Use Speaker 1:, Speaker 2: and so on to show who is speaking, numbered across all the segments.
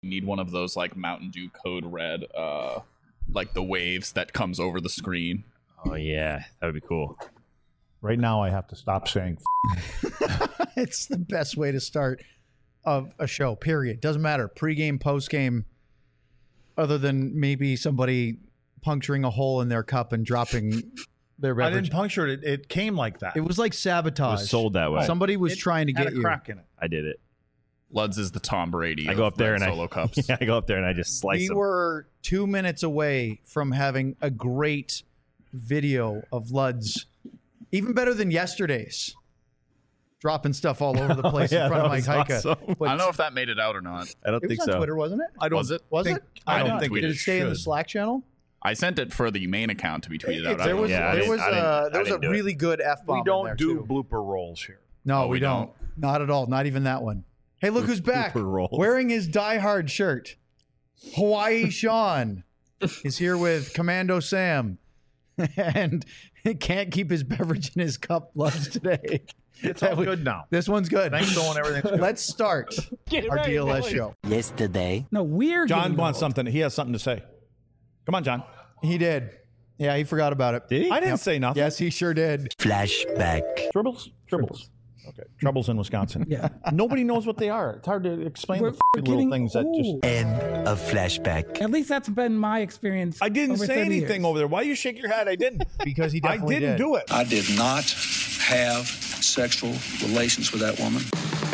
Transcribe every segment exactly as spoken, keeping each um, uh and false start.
Speaker 1: need one of those like Mountain Dew Code Red, uh, like the waves that comes over the screen.
Speaker 2: Oh yeah, that would be cool.
Speaker 3: Right now, I have to stop saying.
Speaker 4: It's the best way to start of a show. Period. Doesn't matter. Pre-game, post-game. Other than maybe somebody puncturing a hole in their cup and dropping their beverage.
Speaker 3: I didn't puncture it. It came like that.
Speaker 4: It was like sabotage.
Speaker 2: It was sold that way.
Speaker 4: Somebody was
Speaker 3: It
Speaker 4: trying to
Speaker 3: had
Speaker 4: get
Speaker 3: a
Speaker 4: you.
Speaker 3: crack in it.
Speaker 2: I did it.
Speaker 1: Luds is the Tom Brady.
Speaker 2: I go
Speaker 1: of
Speaker 2: up there
Speaker 1: red
Speaker 2: and
Speaker 1: solo
Speaker 2: I
Speaker 1: cups.
Speaker 2: Yeah, I go up there and I just slice
Speaker 4: We
Speaker 2: them.
Speaker 4: were two minutes away from having a great video of Luds, even better than yesterday's, dropping stuff all over the place
Speaker 2: yeah,
Speaker 4: in front of
Speaker 2: that
Speaker 4: Mike
Speaker 2: was
Speaker 4: Heika.
Speaker 2: awesome.
Speaker 4: But
Speaker 1: I don't know if that made it out or not.
Speaker 2: I don't
Speaker 4: it
Speaker 2: think
Speaker 4: was on
Speaker 2: so.
Speaker 4: Twitter, wasn't it?
Speaker 3: I don't.
Speaker 1: Was it?
Speaker 4: Was
Speaker 3: think,
Speaker 4: it?
Speaker 3: I
Speaker 1: I
Speaker 3: don't
Speaker 1: didn't
Speaker 3: think
Speaker 1: tweet
Speaker 4: Did
Speaker 3: it
Speaker 4: it stay in the
Speaker 3: should.
Speaker 4: Slack channel?
Speaker 1: I sent it for the main account to be tweeted out. I
Speaker 4: There
Speaker 1: don't
Speaker 4: was
Speaker 1: know.
Speaker 2: Yeah, I
Speaker 4: there
Speaker 2: didn't-
Speaker 4: was
Speaker 2: I didn't-
Speaker 4: uh,
Speaker 2: I
Speaker 4: there was a
Speaker 2: didn't do it.
Speaker 4: really good F bomb.
Speaker 3: We
Speaker 4: in
Speaker 3: don't
Speaker 4: there,
Speaker 3: do
Speaker 4: too.
Speaker 3: blooper rolls here.
Speaker 4: No,
Speaker 1: Oh,
Speaker 4: we,
Speaker 1: we
Speaker 4: don't.
Speaker 1: don't.
Speaker 4: Not at all. Not even that one. Hey, look who's back.
Speaker 2: Blooper rolls.
Speaker 4: Wearing his Die Hard shirt. Hawaii Sean is here with Commando Sam. And he can't keep his beverage in his cup lunch today.
Speaker 3: It's all good now.
Speaker 4: This one's good.
Speaker 3: Thanks, Owen. Everything's good.
Speaker 4: Let's start our D L S show.
Speaker 5: Yesterday.
Speaker 6: No, we're
Speaker 3: John
Speaker 6: getting
Speaker 3: wants
Speaker 6: old.
Speaker 3: something. He has something to say. Come on, John.
Speaker 4: He did. Yeah, he forgot about it.
Speaker 2: Did he?
Speaker 3: I didn't
Speaker 4: Yep.
Speaker 3: say nothing.
Speaker 4: Yes, he sure did.
Speaker 5: Flashback.
Speaker 3: Tribbles? Tribbles. Okay. Troubles in Wisconsin.
Speaker 6: Yeah.
Speaker 3: Nobody knows what they are. It's hard to explain
Speaker 6: We're,
Speaker 3: the
Speaker 6: we're
Speaker 3: f- little
Speaker 6: getting
Speaker 3: things that just.
Speaker 6: old.
Speaker 5: End of flashback.
Speaker 6: At least that's been my experience.
Speaker 3: I didn't
Speaker 6: over
Speaker 3: say
Speaker 6: thirty
Speaker 3: anything
Speaker 6: years.
Speaker 3: over there. Why you shake your head? I didn't.
Speaker 4: Because he
Speaker 3: I
Speaker 4: definitely
Speaker 3: didn't
Speaker 4: did.
Speaker 3: do it.
Speaker 7: I did not have sexual relations with that woman.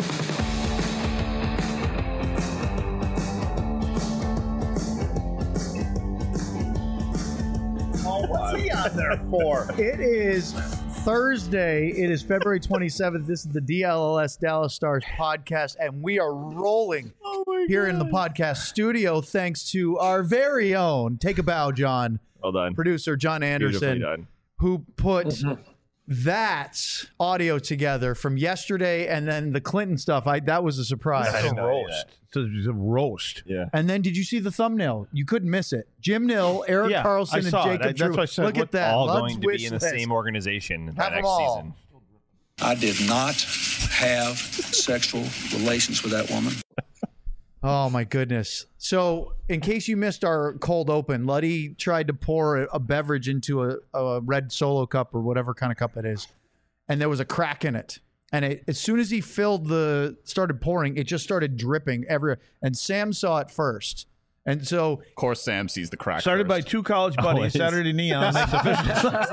Speaker 3: What's he on there for?
Speaker 4: It is Thursday. It is February twenty-seventh. This is the D L S Dallas Stars podcast, and we are rolling here in the podcast studio thanks to our very own, take a bow, John,
Speaker 2: Well done.
Speaker 4: producer John
Speaker 2: Beautifully
Speaker 4: Anderson,
Speaker 2: done.
Speaker 4: who put that audio together from yesterday and then the Clinton stuff. I That was a surprise.
Speaker 2: I
Speaker 3: It's a
Speaker 2: didn't know any of
Speaker 3: roast. It's a, it's a roast.
Speaker 2: Yeah.
Speaker 4: And then did you see the thumbnail? You couldn't miss it. Jim Nill, Eric
Speaker 3: Yeah,
Speaker 4: Carlson,
Speaker 3: I
Speaker 4: and
Speaker 3: saw it.
Speaker 4: Jacob
Speaker 3: I- that's
Speaker 4: Drew.
Speaker 3: why I said,
Speaker 4: Look
Speaker 3: what-
Speaker 4: at that.
Speaker 2: All
Speaker 4: Lud's
Speaker 2: going to
Speaker 4: wish
Speaker 2: be in the
Speaker 4: list.
Speaker 2: same organization
Speaker 4: Have
Speaker 2: by
Speaker 4: them
Speaker 2: next
Speaker 4: all.
Speaker 2: season.
Speaker 7: I did not have sexual relations with that woman.
Speaker 4: Oh my goodness. So in case you missed our cold open, Luddy tried to pour a, a beverage into a, a red Solo cup or whatever kind of cup it is. And there was a crack in it. And it, as soon as he filled the, started pouring, it just started dripping everywhere. And Sam saw it first. And so
Speaker 1: Of course, Sam sees the crack.
Speaker 3: Started by
Speaker 1: first.
Speaker 3: two college buddies.
Speaker 2: Always.
Speaker 3: Saturday Neon makes official.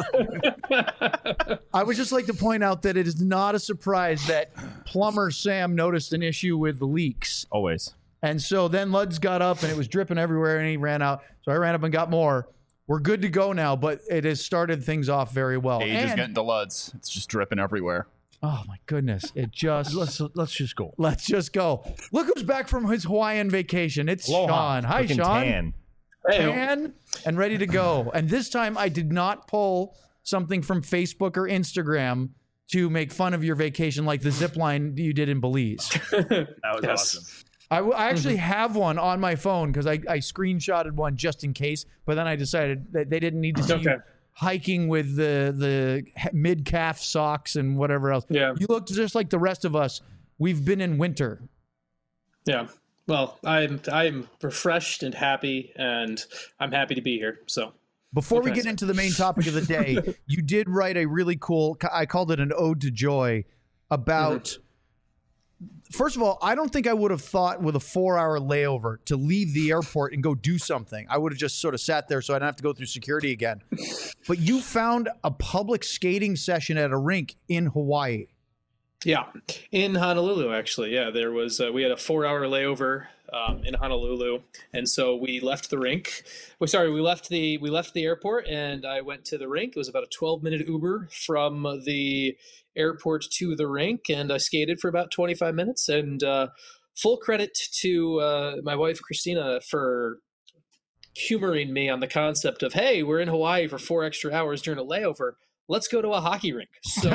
Speaker 4: I would just like to point out that it is not a surprise that plumber Sam noticed an issue with the leaks.
Speaker 2: Always.
Speaker 4: And so then Luds got up and it was dripping everywhere and he ran out. So I ran up and got more. We're good to go now, but it has started things off very well.
Speaker 1: Age is
Speaker 4: And-
Speaker 1: getting to Luds. It's just dripping everywhere.
Speaker 4: oh my goodness. It just
Speaker 3: let's let's just go.
Speaker 4: let's just go. Look who's back from his Hawaiian vacation. It's
Speaker 3: Aloha.
Speaker 4: Sean. Hi,
Speaker 2: Looking
Speaker 4: Sean.
Speaker 2: tan.
Speaker 4: Tan and ready to go. And this time I did not pull something from Facebook or Instagram to make fun of your vacation like the zip line you did in Belize.
Speaker 2: That was
Speaker 8: Yes.
Speaker 2: awesome.
Speaker 4: I, w- I actually have one on my phone because I, I screenshotted one just in case, but then I decided that they didn't need to see
Speaker 8: Okay.
Speaker 4: you hiking with the the mid calf socks and whatever else.
Speaker 8: Yeah.
Speaker 4: You looked just like the rest of us. We've been in winter.
Speaker 8: Yeah. Well, I'm I'm refreshed and happy, and I'm happy to be here. So
Speaker 4: Before we
Speaker 8: Okay.
Speaker 4: get into the main topic of the day, you did write a really cool, I called it an ode to joy about, first of all, I don't think I would have thought with a four hour layover to leave the airport and go do something. I would have just sort of sat there so I didn't have to go through security again. But you found a public skating session at a rink in Hawaii.
Speaker 8: yeah, in Honolulu, actually, yeah, there was uh, we had a four-hour layover um, in Honolulu, and so we left the rink. We sorry, we left the we left the airport, and I went to the rink. It was about a twelve-minute Uber from the airport to the rink, and I skated for about twenty-five minutes. And uh, full credit to uh, my wife Christina for humoring me on the concept of, hey, we're in Hawaii for four extra hours during a layover. Let's go to a hockey rink. So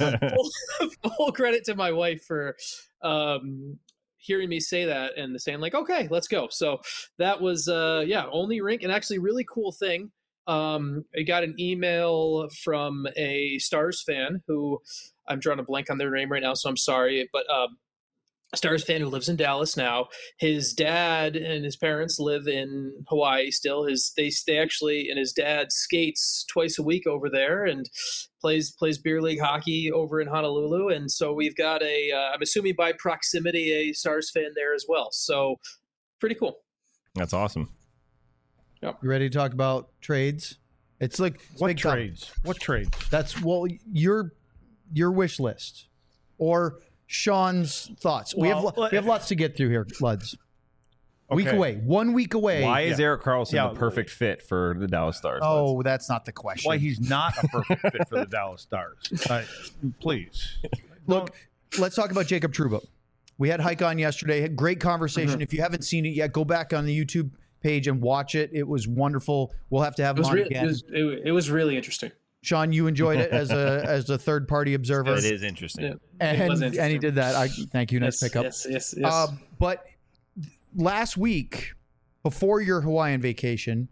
Speaker 8: full, full credit to my wife for um, hearing me say that and saying like, okay, let's go. So that was, uh, yeah, only rink. And actually really cool thing. Um, I got an email from a Stars fan who I'm drawing a blank on their name right now, so I'm sorry. But um, Stars fan who lives in Dallas now. His dad and his parents live in Hawaii still. His they they actually and his dad skates twice a week over there and plays plays beer league hockey over in Honolulu. And so we've got a uh, I'm assuming by proximity a Stars fan there as well. So pretty cool.
Speaker 2: That's awesome.
Speaker 4: You ready to talk about trades? It's like it's
Speaker 3: What
Speaker 4: big time.
Speaker 3: trades? What trades?
Speaker 4: That's well your your wish list or Sean's thoughts. we have
Speaker 3: Well,
Speaker 4: we have lots to get through here, Luds. Week
Speaker 3: Okay.
Speaker 4: away, one week away.
Speaker 2: Why is
Speaker 3: Yeah.
Speaker 2: Eric Carlson
Speaker 3: Yeah.
Speaker 2: the perfect fit for the Dallas Stars?
Speaker 4: Oh, that's not the question.
Speaker 3: Why he's not a perfect fit for the Dallas Stars? Uh, please.
Speaker 4: Look, let's talk about Jacob Trouba. We had Hike on yesterday. Had great conversation.
Speaker 8: Mm-hmm.
Speaker 4: If you haven't seen it yet, go back on the YouTube page and watch it. It was wonderful. We'll have to have
Speaker 8: It
Speaker 4: him
Speaker 8: was,
Speaker 4: on
Speaker 8: re-
Speaker 4: again.
Speaker 8: it, was, it, it was really interesting.
Speaker 4: Sean, you enjoyed it as a as a third party observer,
Speaker 2: It is interesting.
Speaker 8: Yeah. It
Speaker 4: and
Speaker 8: was
Speaker 4: and he
Speaker 8: interesting.
Speaker 4: did that. I thank you. Nice
Speaker 8: Yes,
Speaker 4: pickup.
Speaker 8: yes, yes, yes.
Speaker 4: Uh, but last week, before your Hawaiian vacation,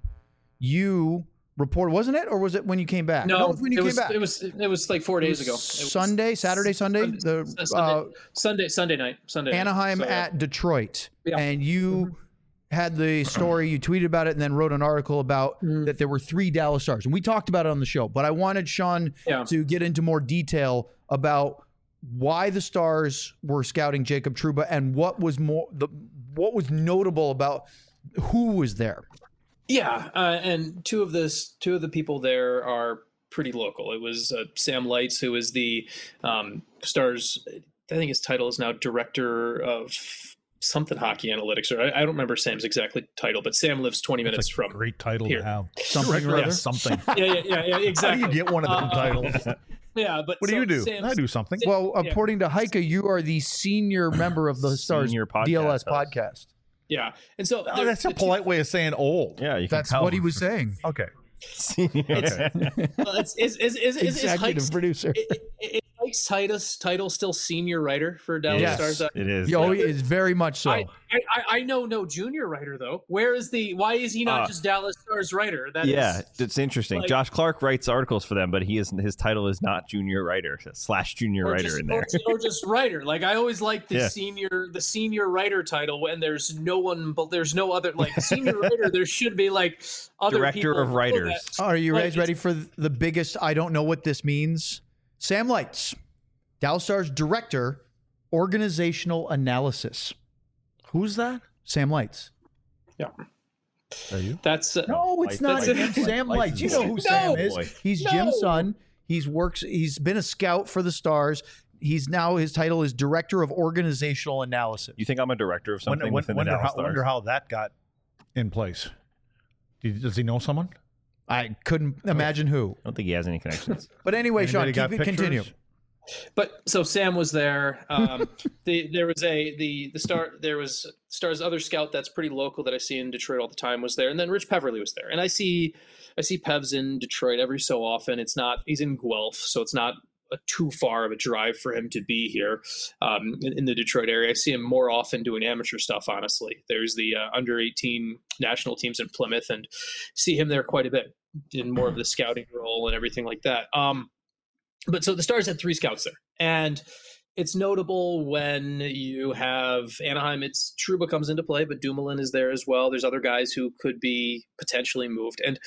Speaker 4: you reported, wasn't it, or was it when you came back?
Speaker 8: no,
Speaker 4: it was when you
Speaker 8: it
Speaker 4: came
Speaker 8: was,
Speaker 4: back.
Speaker 8: It was it was like four
Speaker 4: It
Speaker 8: days
Speaker 4: was
Speaker 8: ago. It was
Speaker 4: Sunday, Saturday, Sunday,
Speaker 8: Sunday,
Speaker 4: the
Speaker 8: Sunday,
Speaker 4: uh,
Speaker 8: Sunday, Sunday night, Sunday. night.
Speaker 4: Anaheim
Speaker 8: So, yeah.
Speaker 4: at Detroit,
Speaker 8: Yeah.
Speaker 4: and you had the story. You tweeted about it, and then wrote an article about
Speaker 8: Mhm.
Speaker 4: that there were three Dallas Stars, and we talked about it on the show. But I wanted Sean
Speaker 8: Yeah.
Speaker 4: to get into more detail about why the Stars were scouting Jacob Trouba and what was more the what was notable about who was there.
Speaker 8: Yeah, uh, and two of this, two of the people there are pretty local. It was uh, Sam Lights, who is the um, Stars. I think his title is now director of something hockey analytics, or I, I don't remember Sam's exactly title, but Sam lives twenty minutes
Speaker 3: That's a
Speaker 8: from.
Speaker 3: great title
Speaker 8: here.
Speaker 3: to have.
Speaker 4: Something
Speaker 3: Director
Speaker 4: or
Speaker 3: of
Speaker 4: other?
Speaker 3: something.
Speaker 8: Yeah, yeah, yeah, yeah,
Speaker 3: How do
Speaker 8: exactly.
Speaker 3: you get one of them
Speaker 8: Uh,
Speaker 3: titles?
Speaker 8: Yeah, but
Speaker 3: What do
Speaker 8: so
Speaker 3: you do?
Speaker 8: Sam's-
Speaker 3: I do something.
Speaker 4: Well,
Speaker 8: Yeah.
Speaker 4: according to Heike, you are the senior member of the Stars
Speaker 2: Senior podcast
Speaker 4: D L S
Speaker 2: host.
Speaker 4: podcast.
Speaker 8: Yeah, and so
Speaker 3: Oh,
Speaker 8: there-
Speaker 3: that's a
Speaker 8: the two-
Speaker 3: polite way of saying old.
Speaker 2: Yeah, you can
Speaker 4: That's
Speaker 2: tell.
Speaker 4: what he was saying.
Speaker 3: Okay.
Speaker 2: Okay.
Speaker 8: well, it's, is is is is, is
Speaker 4: Executive
Speaker 8: Hike's,
Speaker 4: producer.
Speaker 8: i- i- is Hike's Titus title still senior writer for Dallas
Speaker 4: Yes.
Speaker 8: Stars? Uh,
Speaker 2: It is.
Speaker 4: Oh,
Speaker 2: yeah.
Speaker 4: he is very much so.
Speaker 8: I, I, I know no junior writer though. Where is the? Why is he not
Speaker 2: Uh,
Speaker 8: just Dallas Stars writer? That
Speaker 2: yeah,
Speaker 8: is,
Speaker 2: it's interesting.
Speaker 8: like-
Speaker 2: Josh Clark writes articles for them, but he is his title is not junior writer slash junior
Speaker 8: or
Speaker 2: writer
Speaker 8: just,
Speaker 2: in there.
Speaker 8: or, ju- or just writer. Like I always like the
Speaker 2: Yeah.
Speaker 8: senior the senior writer title when there's no one, but there's no other like senior writer. There should be like other
Speaker 2: Director
Speaker 8: people
Speaker 2: of
Speaker 8: below
Speaker 2: writers.
Speaker 8: that.
Speaker 4: Are you
Speaker 8: Like,
Speaker 4: guys ready for the biggest? I don't know what this means. Sam Lights, Dallas Stars director, organizational analysis.
Speaker 3: Who's that?
Speaker 4: Sam Lights.
Speaker 3: Are you?
Speaker 8: That's uh,
Speaker 4: No, it's
Speaker 2: Lights-
Speaker 4: not
Speaker 8: Lights-
Speaker 4: him. Sam Lights. You know who
Speaker 8: No.
Speaker 4: Sam is.
Speaker 2: Boy.
Speaker 4: He's
Speaker 8: No.
Speaker 4: Jim's son. He's works. He's been a scout for the Stars. He's now his title is director of organizational analysis.
Speaker 2: You think I'm a director of
Speaker 3: Wonder,
Speaker 2: something
Speaker 3: wonder,
Speaker 2: within the
Speaker 3: wonder,
Speaker 2: Dallas
Speaker 3: how,
Speaker 2: Stars?
Speaker 3: wonder how that got in place. Did- Does he know someone?
Speaker 4: I couldn't imagine who.
Speaker 2: I don't think he has any connections.
Speaker 4: But anyway, Sean,
Speaker 3: Anybody
Speaker 4: keep
Speaker 3: got
Speaker 4: it,
Speaker 3: pictures?
Speaker 4: continue.
Speaker 8: But so Sam was there. Um, the there was a the the star there was Star's other scout that's pretty local that I see in Detroit all the time was there, and then Rich Peverly was there, and I see I see Pevs in Detroit every so often. It's not he's in Guelph, so it's not a too far of a drive for him to be here um, in, in the Detroit area. I see him more often doing amateur stuff. Honestly, there's the uh, under eighteen national teams in Plymouth, and see him there quite a bit in more of the scouting role and everything like that. Um, But so the Stars had three scouts there, and it's notable when you have Anaheim. It's Trouba comes into play, but Dumoulin is there as well. There's other guys who could be potentially moved, and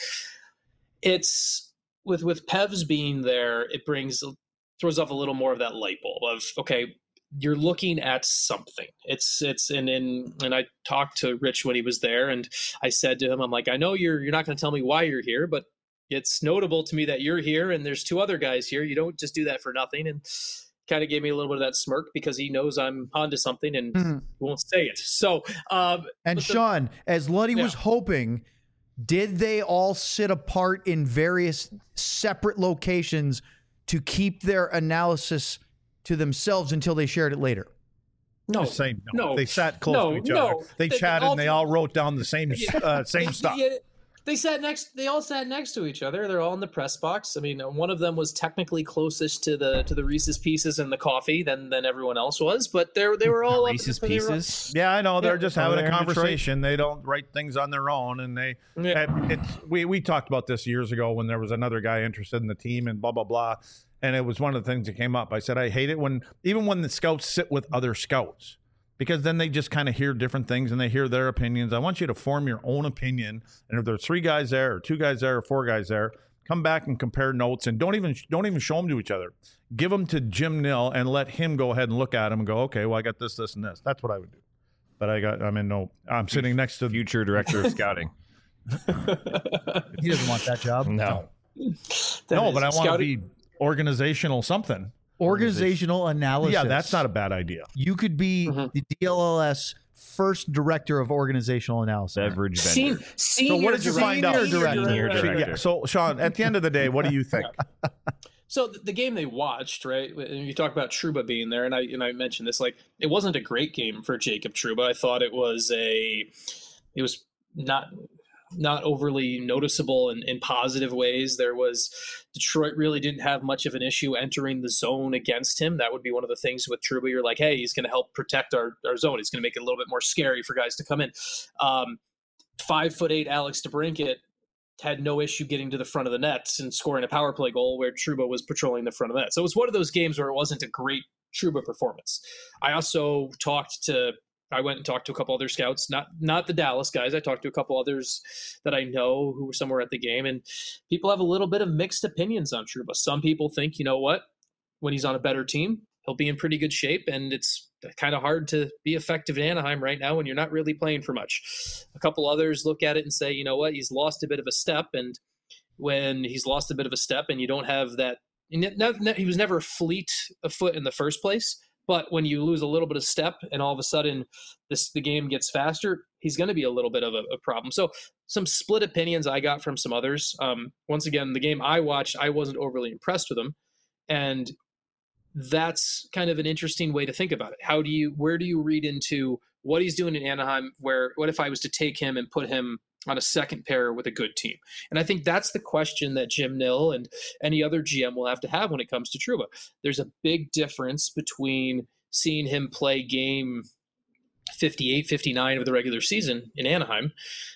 Speaker 8: it's with with Pevs being there, it brings throws off a little more of that light bulb of okay, you're looking at something. It's it's and and and I talked to Rich when he was there, and I said to him, I'm like, I know you're you're not going to tell me why you're here, but it's notable to me that you're here and there's two other guys here. You don't just do that for nothing. And kind of gave me a little bit of that smirk because he knows I'm onto something and
Speaker 4: Mhm.
Speaker 8: won't say it. So, um,
Speaker 4: And
Speaker 8: but the-
Speaker 4: Sean, as Luddy was
Speaker 8: Yeah.
Speaker 4: hoping, did they all sit apart in various separate locations to keep their analysis to themselves until they shared it later?
Speaker 8: no,
Speaker 3: Just saying no.
Speaker 8: no,
Speaker 3: They sat close
Speaker 8: no,
Speaker 3: to each
Speaker 8: no.
Speaker 3: other. They
Speaker 8: They-
Speaker 3: chatted
Speaker 8: all-
Speaker 3: and they all wrote down the same uh, same
Speaker 8: They-
Speaker 3: stuff.
Speaker 8: yeah, They sat next. They all sat next to each other. They're all in the press box. I mean, one of them was technically closest to the to the Reese's Pieces and the coffee than than everyone else was. But they they were all up-
Speaker 2: Reese's
Speaker 8: they were all-
Speaker 2: Pieces.
Speaker 3: Yeah, I know. They're
Speaker 8: Yeah.
Speaker 3: just
Speaker 2: Over
Speaker 3: having
Speaker 2: there
Speaker 3: a
Speaker 2: in Detroit?
Speaker 3: conversation. They don't write things on their own, and they.
Speaker 8: Yeah.
Speaker 3: and It's we we talked about this years ago when there was another guy interested in the team and blah blah blah, and it was one of the things that came up. I said I hate it when even when the scouts sit with other scouts. because then they just kind of hear different things and they hear their opinions. I want you to form your own opinion. And if there's three guys there or two guys there or four guys there, come back and compare notes and don't even don't even show them to each other. Give them to Jim Nill and let him go ahead and look at them and go, okay, well, I got this, this, and this. That's what I would do. But I got, I'm in no, I'm sitting next to
Speaker 2: Future director of scouting.
Speaker 4: He doesn't want that job.
Speaker 2: No.
Speaker 3: no, but I want to
Speaker 8: Scouting-
Speaker 3: be organizational something.
Speaker 4: Organizational analysis.
Speaker 3: Yeah, that's not a bad idea.
Speaker 4: You could be
Speaker 8: Mhm.
Speaker 4: the D L L S first director of organizational analysis.
Speaker 2: Beverage
Speaker 8: Sen-
Speaker 2: vendor.
Speaker 8: senior
Speaker 3: So what did you
Speaker 8: director-
Speaker 3: find out?
Speaker 4: Senior director.
Speaker 2: Senior director.
Speaker 3: Yeah. So, Sean, at the end of the day, what do you think?
Speaker 8: So the, the game they watched, right? And you talk about Trouba being there, and I and I mentioned this. Like, it wasn't a great game for Jacob Trouba. I thought it was a, it was not not overly noticeable in, in positive ways. There was Detroit really didn't have much of an issue entering the zone against him. That would be one of the things with Trouba. You're like, hey, he's going to help protect our, our zone. He's going to make it a little bit more scary for guys to come in. Um, five foot eight Alex DeBrincat had no issue getting to the front of the net and scoring a power play goal where Trouba was patrolling the front of the net. So it was one of those games where it wasn't a great Trouba performance. I also talked to, I went and talked to a couple other scouts, not not the Dallas guys. I talked to a couple others that I know who were somewhere at the game, and people have a little bit of mixed opinions on Trouba. Some people think, you know what, when he's on a better team, he'll be in pretty good shape, and it's kind of hard to be effective in Anaheim right now when you're not really playing for much. A couple others look at it and say, you know what, he's lost a bit of a step, and when he's lost a bit of a step and you don't have that, he was never fleet of foot in the first place, but when you lose a little bit of step and all of a sudden this the game gets faster, he's going to be a little bit of a, a problem. So some split opinions I got from some others. Um, once again, the game I watched, I wasn't overly impressed with him, and that's kind of an interesting way to think about it. How do you, where do you read into what he's doing in Anaheim? Where, what if I was to take him and put him on a second pair with a good team? And I think that's the question that Jim Nill and any other G M will have to have when it comes to Trouba. There's a big difference between seeing him play game fifty-eight, fifty-nine of the regular season in Anaheim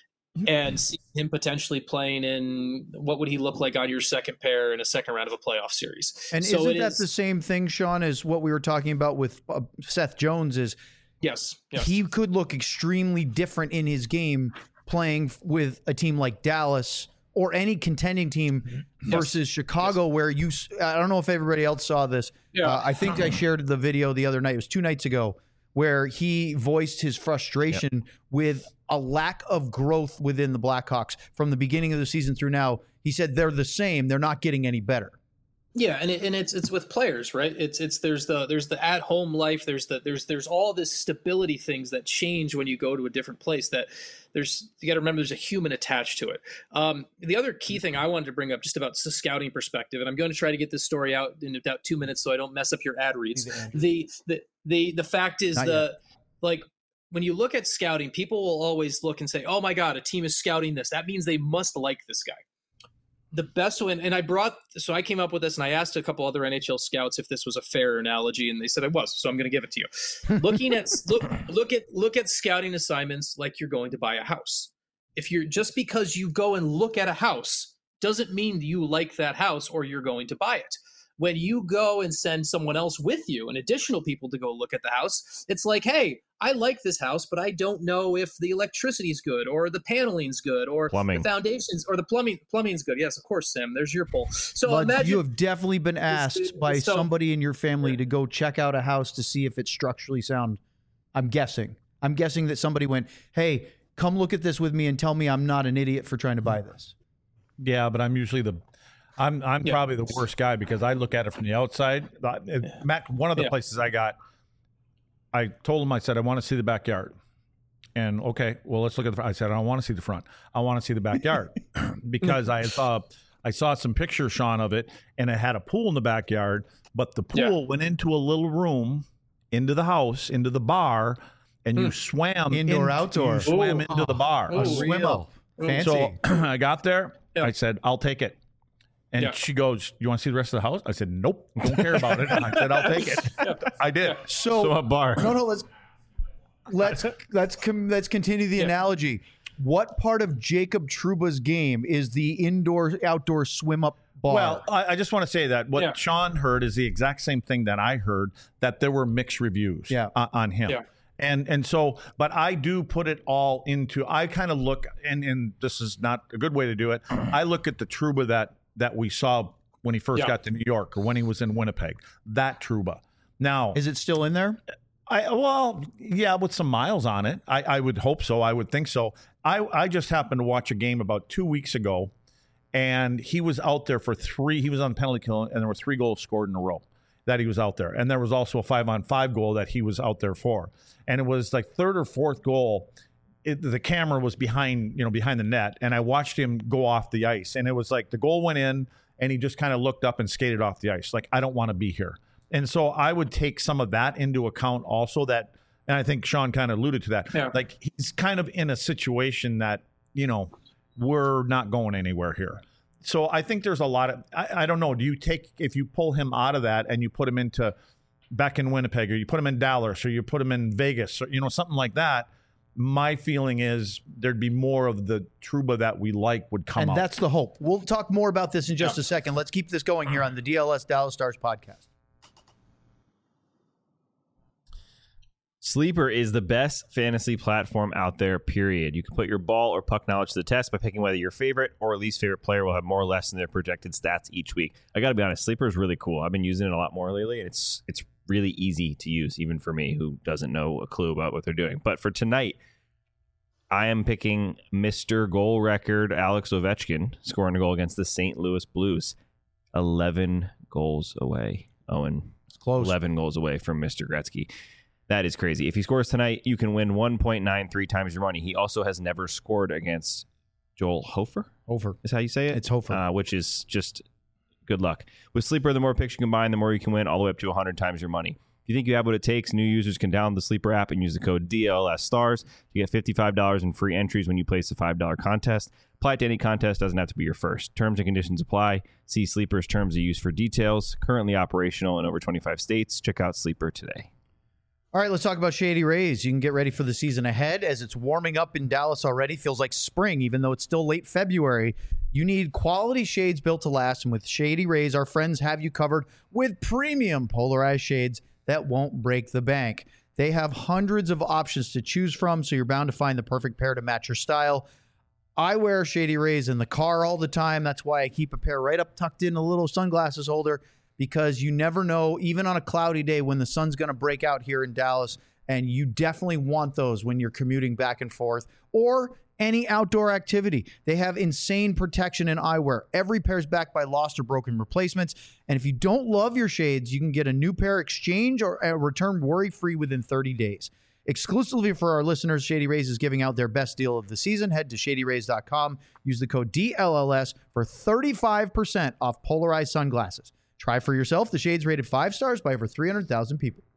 Speaker 8: and see him potentially playing in, what would he look like on your second pair in a second round of a playoff series?
Speaker 4: And
Speaker 8: so
Speaker 4: isn't
Speaker 8: it
Speaker 4: that
Speaker 8: is,
Speaker 4: the same thing, Sean, as what we were talking about with uh, Seth Jones? Is
Speaker 8: yes, yes.
Speaker 4: he could look extremely different in his game playing f- with a team like Dallas or any contending team versus Chicago, where you, s- I don't know if everybody else saw this.
Speaker 8: Yeah.
Speaker 4: Uh, I think I shared the video the other night. It was two nights ago, where he voiced his frustration with a lack of growth within the Blackhawks from the beginning of the season through now. He said they're the same. They're not getting any better.
Speaker 8: Yeah, and it, and it's it's with players, right? It's it's there's the there's the at home life. There's the there's there's all this stability things that change when you go to a different place. That there's you got to remember there's a human attached to it. Um, the other key thing I wanted to bring up just about the scouting perspective, and I'm going to try to get this story out in about two minutes so I don't mess up your ad reads. The the the the fact is
Speaker 4: Not
Speaker 8: the like. When you look at scouting, people will always look and say, oh my God, a team is scouting this. That means they must like this guy. The best one, and I brought, so I came up with this and I asked a couple other N H L scouts if this was a fair analogy, and they said it was, so I'm going to give it to you. Looking at, look, look at, look at scouting assignments like you're going to buy a house. If you're, just because you go and look at a house doesn't mean you like that house or you're going to buy it. When you go and send someone else with you and additional people to go look at the house, it's like, hey, I like this house, but I don't know if the electricity is good or the paneling's good or
Speaker 2: Plumbing.
Speaker 8: the foundations or the plumbing plumbing's good. Yes, of course, Sam. There's your poll. So
Speaker 4: But
Speaker 8: imagine
Speaker 4: you have definitely been asked by
Speaker 8: so-
Speaker 4: somebody in your family to go check out a house to see if it's structurally sound. I'm guessing. I'm guessing that somebody went, hey, come look at this with me and tell me I'm not an idiot for trying to buy this.
Speaker 3: Yeah, but I'm usually the, I'm I'm
Speaker 8: Yeah.
Speaker 3: probably the worst guy because I look at it from the outside. Uh, Matt, one of the
Speaker 8: Yeah.
Speaker 3: places I got, I told him, I said, I want to see the backyard. And okay, well, let's look at the front. I said, I don't want to see the front. I want to see the backyard because I saw I saw some pictures, Sean, of it, and it had a pool in the backyard, but the pool
Speaker 8: Yeah.
Speaker 3: went into a little room, into the house, into the bar, and you swam
Speaker 4: Indoor,
Speaker 3: into-
Speaker 4: outdoor.
Speaker 3: You swam
Speaker 8: Ooh.
Speaker 3: into the bar.
Speaker 8: Ooh.
Speaker 4: Swim up. Fancy.
Speaker 3: So I got there.
Speaker 8: Yeah.
Speaker 3: I said, I'll take it. And
Speaker 8: Yeah.
Speaker 3: she goes, you want to see the rest of the house? I said, nope, don't care about it. I said, I'll take it. I did.
Speaker 4: so,
Speaker 2: So a bar.
Speaker 4: no, no, let's let's let's com- let's continue the analogy. What part of Jacob Trouba's game is the indoor outdoor swim up bar?
Speaker 3: Well, I, I just want to say that what
Speaker 8: Yeah.
Speaker 3: Sean heard is the exact same thing that I heard, that there were mixed reviews
Speaker 4: Yeah.
Speaker 3: uh, on him.
Speaker 8: Yeah.
Speaker 3: And and so, but I do put it all into. I kind of look, and and this is not a good way to do it. I look at the Trouba that that we saw when he first
Speaker 8: Yeah.
Speaker 3: got to New York or when he was in Winnipeg. That Trouba. Now,
Speaker 4: Is it still in there?
Speaker 3: I well, yeah, with some miles on it. I, I would hope so. I would think so. I I just happened to watch a game about two weeks ago, and he was out there for three. He was on penalty kill, and there were three goals scored in a row that he was out there, and there was also a five on five goal that he was out there for, and it was like third or fourth goal. It, the camera was behind, you know, behind the net, and I watched him go off the ice, and it was like the goal went in, and he just kind of looked up and skated off the ice, like I don't want to be here. And so I would take some of that into account also. That, and I think Sean kind of alluded to that.
Speaker 8: Yeah.
Speaker 3: Like he's kind of in a situation that, you know, we're not going anywhere here. So I think there's a lot of, I, I don't know. Do you take, if you pull him out of that and you put him into back in Winnipeg, or you put him in Dallas, or you put him in Vegas, or, you know, something like that, my feeling is there'd be more of the Trouba that we like would come
Speaker 4: And
Speaker 3: out.
Speaker 4: that's the hope. We'll talk more about this in just a second. Let's keep this going here on the D L S Dallas Stars podcast.
Speaker 2: Sleeper is the best fantasy platform out there, period. You can put your ball or puck knowledge to the test by picking whether your favorite or least favorite player will have more or less in their projected stats each week. I got to be honest, Sleeper is really cool. I've been using it a lot more lately, and it's it's really easy to use, even for me who doesn't know a clue about what they're doing. But for tonight, I am picking Mister Goal Record Alex Ovechkin, scoring a goal against the Saint Louis Blues. eleven goals away, Owen.
Speaker 4: It's close.
Speaker 2: eleven goals away from Mister Gretzky. That is crazy. If he scores tonight, you can win one point nine three times your money. He also has never scored against Joel Hofer.
Speaker 4: Over.
Speaker 2: Is how you say it?
Speaker 4: It's Hofer.
Speaker 2: Uh, which is just good luck. With Sleeper, the more picks you combine, the more you can win, all the way up to one hundred times your money. If you think you have what it takes, new users can download the Sleeper app and use the code D L S Stars to get fifty-five dollars in free entries when you place a five dollar contest. Apply it to any contest, doesn't have to be your first. Terms and conditions apply. See Sleeper's terms of use for details. Currently operational in over twenty-five states. Check out Sleeper today.
Speaker 4: All right, let's talk about Shady Rays. You can get ready for the season ahead as it's warming up in Dallas already. Feels like spring, even though it's still late February. You need quality shades built to last, and with Shady Rays, our friends have you covered with premium polarized shades that won't break the bank. They have hundreds of options to choose from, so you're bound to find the perfect pair to match your style. I wear Shady Rays in the car all the time. That's why I keep a pair right up tucked in a little sunglasses holder, because you never know, even on a cloudy day, when the sun's going to break out here in Dallas, and you definitely want those when you're commuting back and forth or any outdoor activity. They have insane protection in eyewear. Every pair is backed by lost or broken replacements. And if you don't love your shades, you can get a new pair exchange or uh, return worry-free within thirty days. Exclusively for our listeners, Shady Rays is giving out their best deal of the season. Head to shady rays dot com. Use the code D L L S for thirty-five percent off polarized sunglasses. Try for yourself. The shades rated five stars by over three hundred thousand people.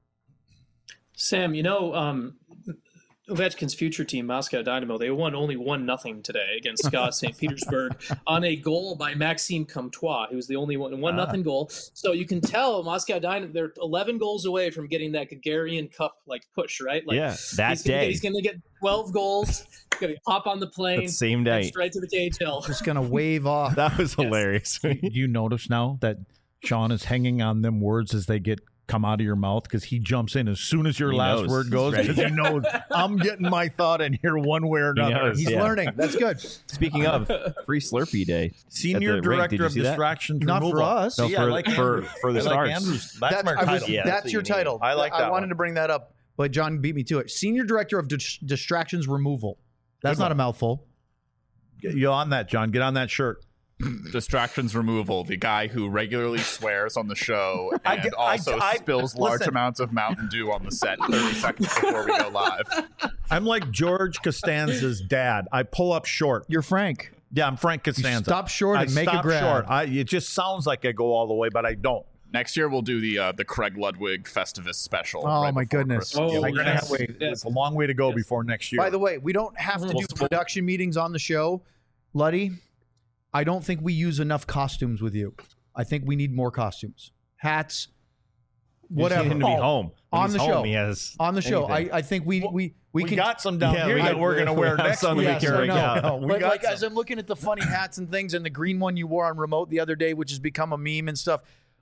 Speaker 8: Sam, you know, um, Ovechkin's future team, Moscow Dynamo, they won only one nothing today against Scott Saint Petersburg on a goal by Maxime Comtois, who was the only one one nothing goal. So you can tell Moscow Dynamo, they're eleven goals away from getting that Gagarin Cup like push, right? Like,
Speaker 2: yeah, that
Speaker 8: he's gonna
Speaker 2: day.
Speaker 8: Get, he's going to get twelve goals. He's going to hop on the plane.
Speaker 2: That same day.
Speaker 8: and straight to the K H L.
Speaker 4: Just going to wave off.
Speaker 2: That was hilarious.
Speaker 3: You notice now that Sean is hanging on them words as they get come out of your mouth, because he jumps in as soon as your
Speaker 2: He
Speaker 3: last
Speaker 2: knows.
Speaker 3: word
Speaker 2: He's
Speaker 3: goes,
Speaker 2: ready.
Speaker 3: because he knows I'm getting my thought in here one way or
Speaker 2: He
Speaker 3: another.
Speaker 2: knows.
Speaker 4: He's
Speaker 2: Yeah.
Speaker 4: learning. That's good.
Speaker 2: Speaking of, free Slurpee Day.
Speaker 3: Senior
Speaker 2: At the rink. Did
Speaker 3: Director
Speaker 2: you
Speaker 3: of
Speaker 2: see that?
Speaker 3: Distractions
Speaker 4: Not for
Speaker 3: Removal.
Speaker 4: us.
Speaker 2: No,
Speaker 3: See,
Speaker 2: for,
Speaker 3: I like
Speaker 2: for,
Speaker 3: Andrews.
Speaker 2: for the
Speaker 3: I like
Speaker 2: Stars.
Speaker 3: Andrews. That's, my
Speaker 4: I was-
Speaker 3: title.
Speaker 2: Yeah,
Speaker 4: that's
Speaker 2: that's what
Speaker 4: your
Speaker 2: you need.
Speaker 4: title.
Speaker 3: I like
Speaker 4: I
Speaker 3: that
Speaker 4: wanted
Speaker 3: one.
Speaker 4: to bring that up, but John beat me to it. Senior Director of Dis- Distractions Removal. That's
Speaker 3: Good
Speaker 4: not
Speaker 3: one.
Speaker 4: a mouthful.
Speaker 3: You're on that, John. Get on that shirt.
Speaker 1: Distractions Removal, the guy who regularly swears on the show and
Speaker 3: I get- I-
Speaker 1: also
Speaker 3: I-
Speaker 1: spills large
Speaker 3: listen.
Speaker 1: amounts of Mountain Dew on the set thirty seconds before we go live.
Speaker 3: I'm like George Costanza's dad. I pull up short.
Speaker 4: You're Frank.
Speaker 3: Yeah, I'm Frank
Speaker 4: You
Speaker 3: Costanza.
Speaker 4: stop short
Speaker 3: I
Speaker 4: and make a
Speaker 3: stop
Speaker 4: grab.
Speaker 3: short. I, it just sounds like I go all the way, but I don't.
Speaker 1: Next year we'll do the uh, the Craig Ludwig Festivus special.
Speaker 4: Oh,
Speaker 1: right
Speaker 4: my
Speaker 1: before
Speaker 4: goodness.
Speaker 1: Christmas.
Speaker 8: Oh,
Speaker 3: We're gonna
Speaker 8: yes.
Speaker 3: have wait,
Speaker 8: Yes.
Speaker 3: It's a long way to go before next year.
Speaker 4: By the way, we don't have to do production meetings on the show. Luddy, I don't think we use enough costumes with you. I think we need more costumes. Hats, whatever.
Speaker 2: You just need him to be home. When
Speaker 4: On
Speaker 2: he's
Speaker 4: the
Speaker 2: home,
Speaker 4: show.
Speaker 2: He has
Speaker 4: on the show. I,
Speaker 2: anything.
Speaker 4: I think we we we,
Speaker 3: we
Speaker 4: can
Speaker 3: got some down
Speaker 2: Yeah,
Speaker 3: here
Speaker 2: we
Speaker 3: that
Speaker 2: got-
Speaker 3: we're gonna
Speaker 2: we
Speaker 3: wear
Speaker 2: have
Speaker 3: next
Speaker 2: some
Speaker 3: week.
Speaker 2: we
Speaker 4: Yes,
Speaker 2: can
Speaker 4: I
Speaker 2: break
Speaker 4: know.
Speaker 2: out.
Speaker 3: No, we
Speaker 4: but
Speaker 3: got
Speaker 4: like
Speaker 3: some.
Speaker 4: as I'm looking at the funny hats and things, and the green one you wore on remote the other day, which has become a meme and stuff,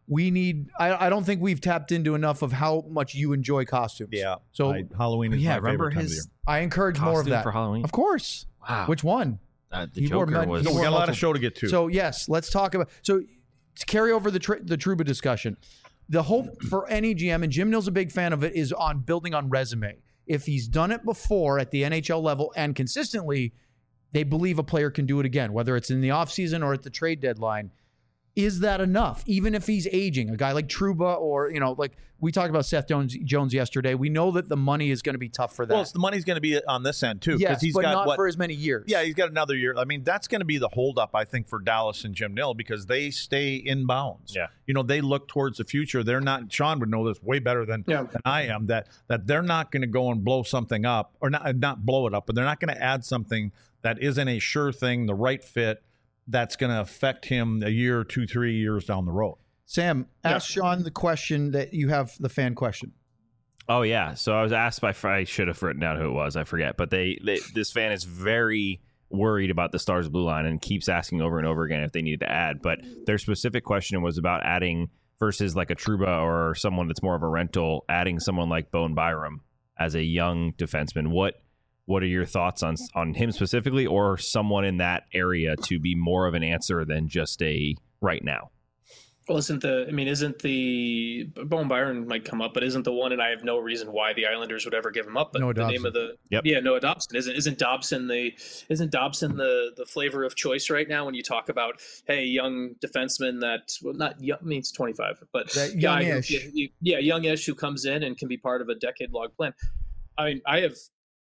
Speaker 4: we need. I, I don't think we've tapped into enough of how much you enjoy costumes.
Speaker 3: Yeah.
Speaker 4: So
Speaker 3: I, Halloween is
Speaker 2: yeah,
Speaker 3: my
Speaker 2: remember
Speaker 3: favorite time of the
Speaker 2: his
Speaker 3: year.
Speaker 4: I encourage more of
Speaker 2: costume
Speaker 4: that
Speaker 2: for Halloween?
Speaker 4: Of course.
Speaker 2: Wow.
Speaker 4: Which one?
Speaker 2: Uh, the
Speaker 4: He wore
Speaker 2: Joker
Speaker 4: mud-
Speaker 2: was.
Speaker 4: he
Speaker 3: No, we
Speaker 4: wore
Speaker 3: got a lot
Speaker 4: multiple-
Speaker 3: of show to get to.
Speaker 4: So yes, let's talk about. So to carry over the tr- the Trouba discussion, the hope for any G M, and Jim Nill's a big fan of it, is on building on resume. If he's done it before at the N H L level and consistently, they believe a player can do it again, whether it's in the offseason or at the trade deadline. Is that enough? Even if he's aging, a guy like Trouba, or, you know, like we talked about Seth Jones, Jones yesterday, we know that the money is going to be tough for that.
Speaker 3: well, it's, the money's going to be on this end too, because
Speaker 4: yes,
Speaker 3: he's
Speaker 4: but
Speaker 3: got
Speaker 4: not
Speaker 3: what?
Speaker 4: for as many years.
Speaker 3: Yeah, he's got another year. I mean, that's going to be the holdup, I think, for Dallas and Jim Nill, because they stay in bounds.
Speaker 2: Yeah.
Speaker 3: You know, they look towards the future. They're not. Sean would know this way better than,
Speaker 8: Yeah.
Speaker 3: than I am. That that they're not going to go and blow something up, or not not blow it up, but they're not going to add something that isn't a sure thing, the right fit, that's going to affect him a year, two, three years down the road.
Speaker 4: Sam, ask Sean the question that you have, the fan question.
Speaker 2: Oh yeah, so I was asked by. I should have written down who it was. I forget, but they, they this fan is very worried about the Stars blue line and keeps asking over and over again if they need to add. But their specific question was about adding versus like a Trouba or someone that's more of a rental, adding someone like Bowen Byram as a young defenseman. What what are your thoughts on on him specifically, or someone in that area to be more of an answer than just a right now?
Speaker 8: Well, isn't the, I mean, isn't the, Bowen Byron might come up, but isn't the one, and I have no reason why the Islanders would ever give him up, but
Speaker 4: Noah
Speaker 8: the
Speaker 4: Dobson.
Speaker 8: name of the,
Speaker 2: Yep.
Speaker 8: yeah, Noah Dobson. Isn't, isn't Dobson the, isn't Dobson the, the flavor of choice right now when you talk about, hey, young defenseman that, well, not young, I mean, it's twenty-five, but
Speaker 4: That
Speaker 8: guy who-
Speaker 4: youngish.
Speaker 8: yeah, yeah, youngish who comes in and can be part of a decade-long plan. I mean, I have,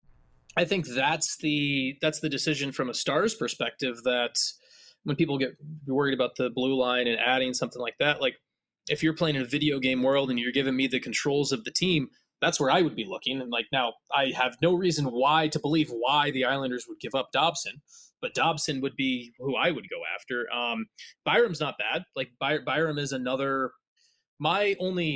Speaker 8: I think that's the, that's the decision from a Stars perspective, that when people get worried about the blue line and adding something like that, like, if you're playing in a video game world and you're giving me the controls of the team, that's where I would be looking. And like, now I have no reason why to believe why the Islanders would give up Dobson, but Dobson would be who I would go after. Um, Byram's not bad. Like By- Byram is another, my only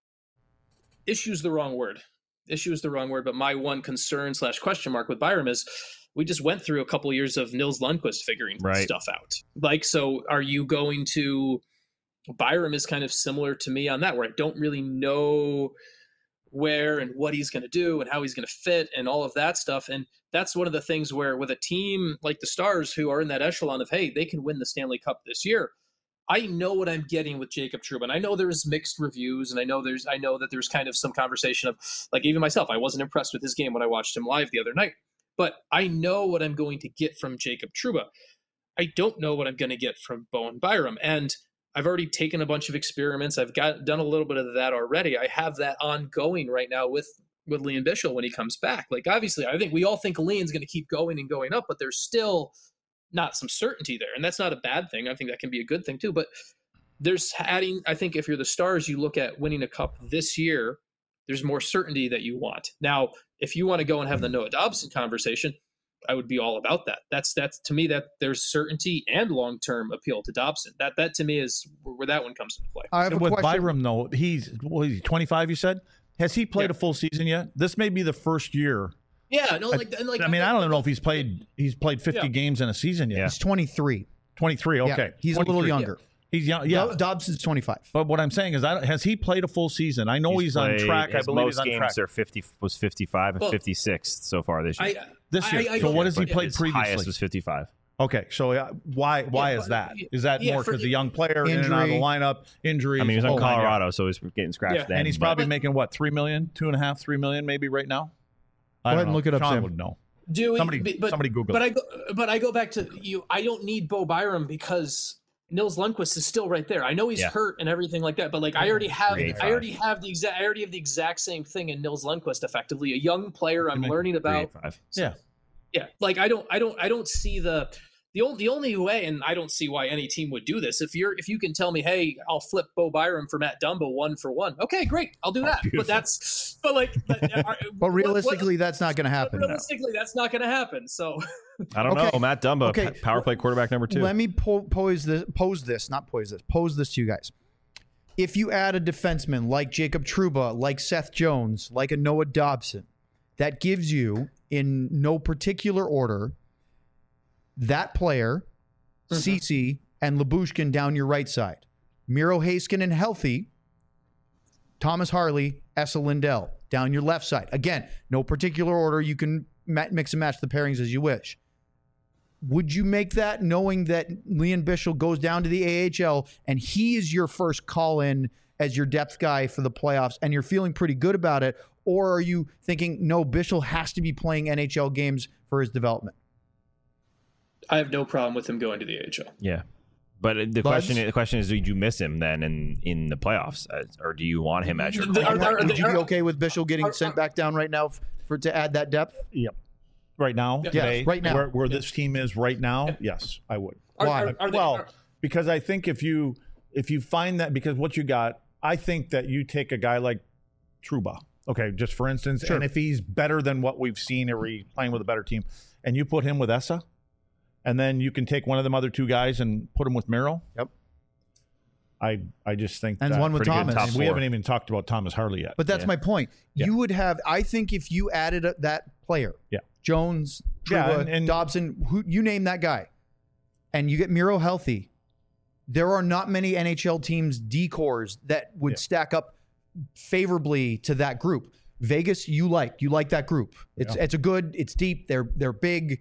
Speaker 8: issue is the wrong word. Issue is the wrong word, but my one concern slash question mark with Byram is we just went through a couple of years of Nils Lundqvist figuring
Speaker 2: Right.
Speaker 8: stuff out. Like, so are you going to, Byram is kind of similar to me on that, where I don't really know where and what he's going to do and how he's going to fit and all of that stuff. And that's one of the things where with a team like the Stars, who are in that echelon of, hey, they can win the Stanley Cup this year, I know what I'm getting with Jacob Trouba. And I know there's mixed reviews, and I know there's I know that there's kind of some conversation of, like, even myself, I wasn't impressed with his game when I watched him live the other night. But I know what I'm going to get from Jacob Trouba. I don't know what I'm going to get from Bowen Byram. And I've already taken a bunch of experiments. I've got done a little bit of that already. I have that ongoing right now with with Liam Bichsel when he comes back. Like, obviously, I think we all think Liam's going to keep going and going up, but there's still not some certainty there. And that's not a bad thing. I think that can be a good thing too. But there's adding, I think if you're the Stars, you look at winning a cup this year, there's more certainty that you want. Now, if you want to go and have the Noah Dobson conversation, I would be all about that. That's that's to me that there's certainty and long-term appeal to Dobson. That that to me is where that one comes into play.
Speaker 4: I have a
Speaker 3: With
Speaker 4: question.
Speaker 3: Byram, though, he's what is he, twenty-five, you said? Has he played
Speaker 8: Yeah.
Speaker 3: a full season yet? This may be the first year.
Speaker 8: Yeah, no, like, and like
Speaker 3: I mean, I don't even know if he's played he's played fifty
Speaker 8: Yeah.
Speaker 3: games in a season yet.
Speaker 4: He's twenty-three.
Speaker 3: twenty-three, okay.
Speaker 4: Yeah, he's a little
Speaker 3: twenty-three.
Speaker 4: younger.
Speaker 3: He's young, yeah.
Speaker 4: Do- Dobson's twenty-five.
Speaker 3: But what I'm saying is, I don't, has he played a full season? I know he's, on
Speaker 2: played-
Speaker 3: track. I
Speaker 2: his
Speaker 3: believe
Speaker 2: most
Speaker 3: he's on
Speaker 2: games
Speaker 3: track
Speaker 2: are fifty was fifty-five and
Speaker 8: Well,
Speaker 2: fifty-six so far this year.
Speaker 8: I,
Speaker 3: this year.
Speaker 8: I- I
Speaker 3: so
Speaker 8: don't-
Speaker 3: what has he
Speaker 8: but
Speaker 3: played
Speaker 2: His
Speaker 3: previously?
Speaker 2: highest was fifty-five.
Speaker 3: Okay, so uh, why why
Speaker 8: Yeah,
Speaker 3: is
Speaker 8: but-
Speaker 3: that? Is that
Speaker 8: yeah,
Speaker 3: more
Speaker 8: for-
Speaker 3: because the young player in and out of the
Speaker 4: Injury.
Speaker 3: lineup, injuries?
Speaker 2: I mean, he was
Speaker 3: oh,
Speaker 2: on
Speaker 3: my God.
Speaker 2: Colorado, so he's getting scratched
Speaker 8: Yeah.
Speaker 2: then.
Speaker 3: and he's
Speaker 2: but-
Speaker 3: probably making what three million, two and a half, three million, maybe right now. I
Speaker 4: Go
Speaker 3: don't
Speaker 4: ahead and
Speaker 3: know.
Speaker 4: look it up,
Speaker 3: Sean
Speaker 4: Sam.
Speaker 3: would know.
Speaker 8: Do we,
Speaker 3: Somebody-
Speaker 8: but,
Speaker 3: somebody Google
Speaker 8: But
Speaker 3: it.
Speaker 8: I go, but I go back to you. I don't need Bo Byram because Nils Lundqvist is still right there. I know he's
Speaker 2: Yeah.
Speaker 8: hurt and everything like that, but like I already have,
Speaker 2: three
Speaker 8: I already have the exact, I already have the exact same thing in Nils Lundqvist. Effectively, a young player I'm learning about.
Speaker 2: three eighty-five.
Speaker 3: Yeah.
Speaker 8: Yeah, like I don't, I don't, I don't see the. The only, the only way, and I don't see why any team would do this. If you're, if you can tell me, hey, I'll flip Bo Byram for Matt Dumba one for one. Okay, great, I'll do that.
Speaker 2: beautiful.
Speaker 8: But that's, but like, but, are-
Speaker 4: But
Speaker 8: what-
Speaker 4: realistically, that's not going to
Speaker 8: what-
Speaker 4: happen. no.
Speaker 8: realistically, that's not going to happen. So,
Speaker 2: I don't
Speaker 4: Okay.
Speaker 2: know. Matt Dumba,
Speaker 4: Okay.
Speaker 2: p- power play quarterback number two.
Speaker 4: Let me po- pose this, pose this, not pose this, pose this to you guys. If you add a defenseman like Jacob Trouba, like Seth Jones, like a Noah Dobson, that gives you, in no particular order, that player,
Speaker 8: Mhm.
Speaker 4: Cece, and Labushkin down your right side. Miro Heiskanen healthy, Thomas Harley, Esa Lindell down your left side. Again, no particular order. You can ma- mix and match the pairings as you wish. Would you make that knowing that Liam Bichsel goes down to the A H L and he is your first call-in as your depth guy for the playoffs and you're feeling pretty good about it? Or are you thinking, no, Bichsel has to be playing N H L games for his development?
Speaker 8: I have no problem with him going to the A H L.
Speaker 2: Yeah. But the
Speaker 4: Buds?
Speaker 2: question, the question is, did you miss him then in, in the playoffs, uh, or do you want him as your?
Speaker 8: Are- are- are-
Speaker 4: Would you be
Speaker 8: are-
Speaker 4: okay with Bichsel getting sent back down right now for to add that depth?
Speaker 3: Yep. Right now,
Speaker 4: Yes,
Speaker 3: today,
Speaker 4: right now.
Speaker 3: where, where this team is right now, yes, I would.
Speaker 8: Are-
Speaker 4: Why?
Speaker 8: are- are they-
Speaker 3: well,
Speaker 8: are-
Speaker 3: because I think if you if you find that because what you got, I think that you take a guy like Trouba, okay, just for instance,
Speaker 4: Sure.
Speaker 3: and if he's better than what we've seen, or he's playing with a better team, and you put him with Essa, and then you can take one of them other two guys and put him with Miro.
Speaker 4: Yep.
Speaker 3: I I just think
Speaker 4: And
Speaker 3: that
Speaker 4: one with
Speaker 2: pretty good
Speaker 4: Thomas.
Speaker 2: top
Speaker 3: we
Speaker 2: four.
Speaker 3: haven't even talked about Thomas Harley yet.
Speaker 4: But that's
Speaker 2: Yeah.
Speaker 4: my point.
Speaker 3: Yeah.
Speaker 4: You would have, I think, if you added a, that player,
Speaker 3: Yeah.
Speaker 4: Jones,
Speaker 3: Yeah,
Speaker 4: Trouba,
Speaker 3: and- and-
Speaker 4: Dobson, who you name that guy, and you get Miro healthy, there are not many N H L teams decors that would
Speaker 3: Yeah.
Speaker 4: stack up favorably to that group. Vegas, you like you like that group. It's
Speaker 3: Yeah.
Speaker 4: it's a good, it's deep. They're they're big.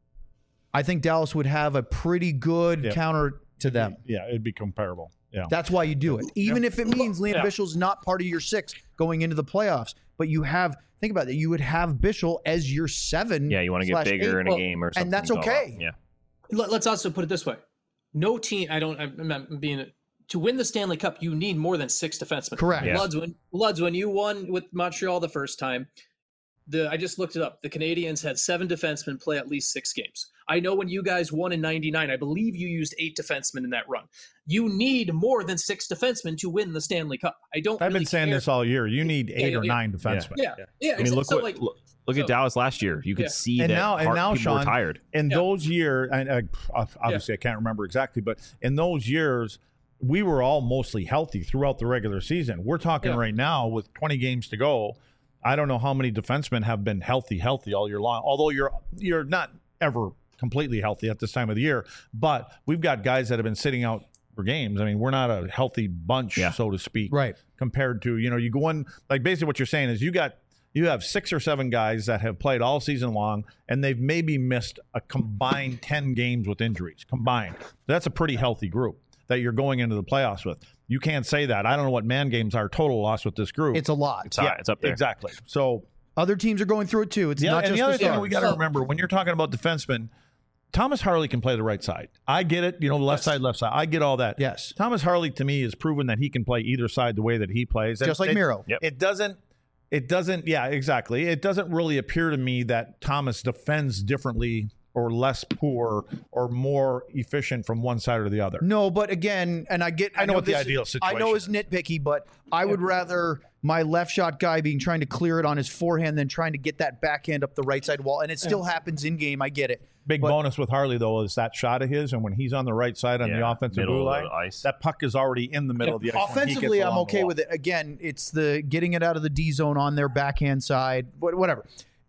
Speaker 4: I think Dallas would have a pretty good
Speaker 3: Yeah.
Speaker 4: counter to them.
Speaker 3: yeah, it'd be comparable. Yeah.
Speaker 4: That's why you do it. Even if it means Liam
Speaker 8: Yeah.
Speaker 4: Bichsel's not part of your six going into the playoffs, but you have, think about it, you would have Bichsel as your seven.
Speaker 2: Yeah, you want to get
Speaker 4: slash
Speaker 2: bigger
Speaker 4: eight.
Speaker 2: in a
Speaker 8: Well,
Speaker 2: game or something.
Speaker 4: and that's
Speaker 2: go
Speaker 4: okay.
Speaker 2: out. Yeah.
Speaker 8: Let, let's also put it this way: no team. I don't. I'm not being to win the Stanley Cup. You need more than six defensemen.
Speaker 4: Correct.
Speaker 2: Yeah.
Speaker 8: Luds, when Luds, when you won with Montreal the first time, the I just looked it up. The Canadians had seven defensemen play at least six games. I know when you guys won in ninety-nine, I believe you used eight defensemen in that run. You need more than six defensemen to win the Stanley Cup. I don't.
Speaker 3: I've
Speaker 8: really
Speaker 3: been saying
Speaker 8: care.
Speaker 3: this all year. You need eight
Speaker 8: yeah,
Speaker 3: or
Speaker 8: yeah.
Speaker 3: nine defensemen.
Speaker 8: Yeah, yeah.
Speaker 2: I mean, look
Speaker 8: so,
Speaker 2: what
Speaker 8: like,
Speaker 2: look, look
Speaker 8: so-
Speaker 2: at Dallas last year. You could
Speaker 8: Yeah.
Speaker 2: see
Speaker 3: And
Speaker 2: that
Speaker 3: now- and
Speaker 2: part-
Speaker 3: now,
Speaker 2: people were
Speaker 3: Sean,
Speaker 2: tired.
Speaker 3: In
Speaker 8: Yeah.
Speaker 3: those years, and uh, obviously I can't remember exactly, but in those years, we were all mostly healthy throughout the regular season. We're talking
Speaker 8: Yeah.
Speaker 3: right now with twenty games to go. I don't know how many defensemen have been healthy, healthy all year long. Although you're you're not ever completely healthy at this time of the year, but we've got guys that have been sitting out for games. I mean, we're not a healthy bunch,
Speaker 2: Yeah.
Speaker 3: so to speak,
Speaker 4: Right.
Speaker 3: compared to, you know, you go in, like basically what you're saying is you got you have six or seven guys that have played all season long and they've maybe missed a combined ten games with injuries combined. That's a pretty healthy group that you're going into the playoffs with. You can't say that. I don't know what man games are total loss with this group.
Speaker 4: It's a lot.
Speaker 2: It's, high, it's up there.
Speaker 3: Exactly. So
Speaker 4: Other teams are going through it too. It's
Speaker 3: the,
Speaker 4: not
Speaker 3: and
Speaker 4: just
Speaker 3: the other
Speaker 4: the
Speaker 3: thing
Speaker 4: Stars.
Speaker 3: we got to remember when you're talking about defensemen, Thomas Harley can play the right side. I get it. You know, left side, left side. I get all that.
Speaker 4: Yes.
Speaker 3: Thomas Harley to me has proven that he can play either side the way that he plays. And
Speaker 4: Just like
Speaker 3: it,
Speaker 4: Miro.
Speaker 2: Yep.
Speaker 3: It doesn't. It doesn't. Yeah, exactly. It doesn't really appear to me that Thomas defends differently or less poor or more efficient from one side or the other.
Speaker 4: No, but again, and I get,
Speaker 3: I know what the
Speaker 4: this-
Speaker 3: ideal
Speaker 4: I know
Speaker 3: situation
Speaker 4: it's nitpicky, but I would rather my left shot guy being trying to clear it on his forehand than trying to get that backhand up the right side wall. And it still happens in game. I get it.
Speaker 3: Big
Speaker 4: But-
Speaker 3: bonus with Harley though is that shot of his, and when he's on the right side on the
Speaker 2: Yeah,
Speaker 3: offensive
Speaker 2: middle
Speaker 3: blue
Speaker 2: of
Speaker 3: line,
Speaker 2: the ice.
Speaker 3: that puck is already in the middle of the ice. when he gets
Speaker 4: Offensively, I'm
Speaker 3: along the
Speaker 4: okay
Speaker 3: wall.
Speaker 4: with it. Again, it's the getting it out of the D zone on their backhand side, wha- whatever.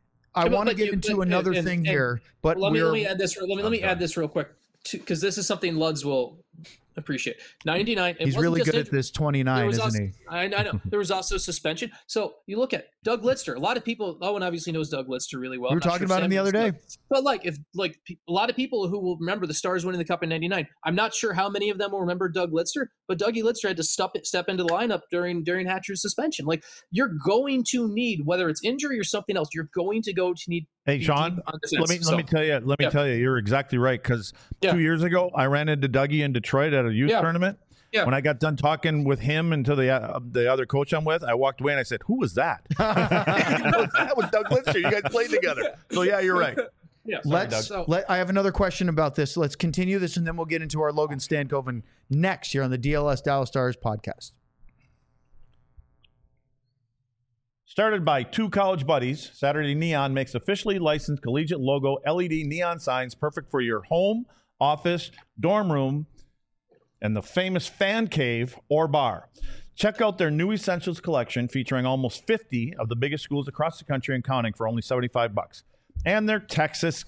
Speaker 4: I
Speaker 8: Yeah, but-
Speaker 4: want to
Speaker 8: but
Speaker 4: get
Speaker 8: you-
Speaker 4: into
Speaker 8: but-
Speaker 4: another
Speaker 8: and-
Speaker 4: thing
Speaker 8: and-
Speaker 4: here, but
Speaker 8: let me
Speaker 4: we're
Speaker 8: let me add this. Let me let me add this real quick because this is something Luds will appreciate. ninety-nine. it
Speaker 4: he's
Speaker 8: wasn't
Speaker 4: really
Speaker 8: just
Speaker 4: good at
Speaker 8: injury.
Speaker 4: this
Speaker 8: There
Speaker 4: twenty-nine,
Speaker 8: was
Speaker 4: isn't
Speaker 8: also,
Speaker 4: he?
Speaker 8: I, I know there was also suspension. So you look at Doug Lidster. A lot of people, Owen obviously knows Doug Lidster really well.
Speaker 4: We were
Speaker 8: I'm not
Speaker 4: talking
Speaker 8: sure
Speaker 4: about him
Speaker 8: Sam
Speaker 4: the other
Speaker 8: knows
Speaker 4: day.
Speaker 8: Doug. But like if like pe- a lot of people who will remember the Stars winning the Cup in ninety-nine, I'm not sure how many of them will remember Doug Lidster. But Dougie Lidster had to step step into the lineup during during Hatcher's suspension. Like you're going to need whether it's injury or something else, you're going to go to need.
Speaker 3: Hey,
Speaker 8: be
Speaker 3: Sean,
Speaker 8: deep on
Speaker 3: let
Speaker 8: defense.
Speaker 3: me let
Speaker 8: So-
Speaker 3: me tell you. Let me
Speaker 8: Yeah.
Speaker 3: tell you, you're exactly right. Because
Speaker 8: Yeah.
Speaker 3: two years ago, I ran into Dougie in Detroit at a youth
Speaker 8: Yeah.
Speaker 3: tournament.
Speaker 8: Yeah.
Speaker 3: When I got done talking with him and to the uh, the other coach I'm with, I walked away and I said, "Who was that?" That was Doug Lidster. You guys played together. So yeah, you're right.
Speaker 8: Yeah,
Speaker 4: Let's.
Speaker 8: so,
Speaker 4: Let, I have another question about this. Let's continue this, and then we'll get into our Logan Stankoven next here on the D L S Dallas Stars podcast.
Speaker 3: Started by two college buddies, Saturday Neon makes officially licensed collegiate logo L E D neon signs perfect for your home, office, dorm room, and the famous fan cave or bar. Check out their new Essentials collection featuring almost fifty of the biggest schools across the country and counting for only seventy-five bucks. and their Texas.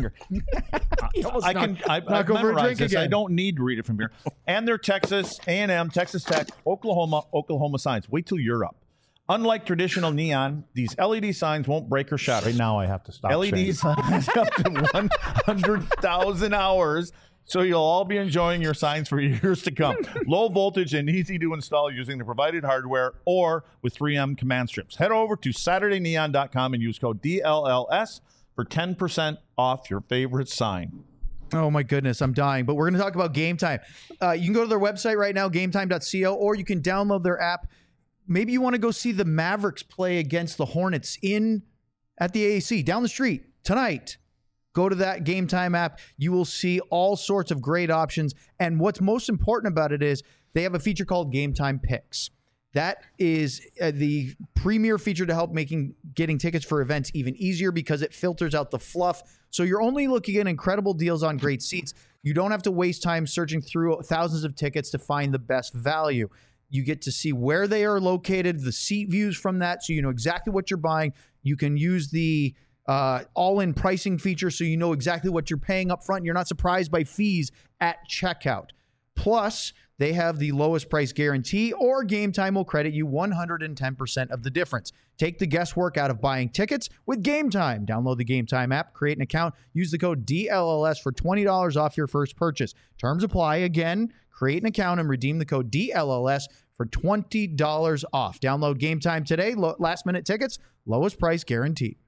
Speaker 3: I can I,
Speaker 4: knock
Speaker 3: I've
Speaker 4: over a
Speaker 3: memorized
Speaker 4: drink
Speaker 3: this.
Speaker 4: again.
Speaker 3: I don't need to read it from here. And their Texas A and M, Texas Tech, Oklahoma, Oklahoma signs. Wait till you're up. Unlike traditional neon, these L E D signs won't break or shatter.
Speaker 4: Right now I have to stop.
Speaker 3: L E D signs up to one hundred thousand hours, so you'll all be enjoying your signs for years to come. Low voltage and easy to install using the provided hardware or with three M command strips. Head over to Saturday Neon dot com and use code D L L S for ten percent off your favorite sign.
Speaker 4: Oh my goodness, I'm dying. But we're going to talk about Game Time. Uh, you can go to their website right now, game time dot co, or you can download their app. Maybe you want to go see the Mavericks play against the Hornets in at the A A C down the street tonight. Go to that Game Time app. You will see all sorts of great options. And what's most important about it is they have a feature called Game Time Picks. That is uh, the premier feature to help making getting tickets for events even easier because it filters out the fluff. So you're only looking at incredible deals on great seats. You don't have to waste time searching through thousands of tickets to find the best value. You get to see where they are located, the seat views from that, so you know exactly what you're buying. You can use the uh, all-in pricing feature so you know exactly what you're paying up front. You're not surprised by fees at checkout. Plus, they have the lowest price guarantee, or Game Time will credit you one hundred ten percent of the difference. Take the guesswork out of buying tickets with Game Time. Download the Game Time app, create an account, use the code D L L S for twenty dollars off your first purchase. Terms apply. Again, create an account and redeem the code D L L S for twenty dollars off. Download Game Time today. Lo- last minute tickets, lowest price guaranteed.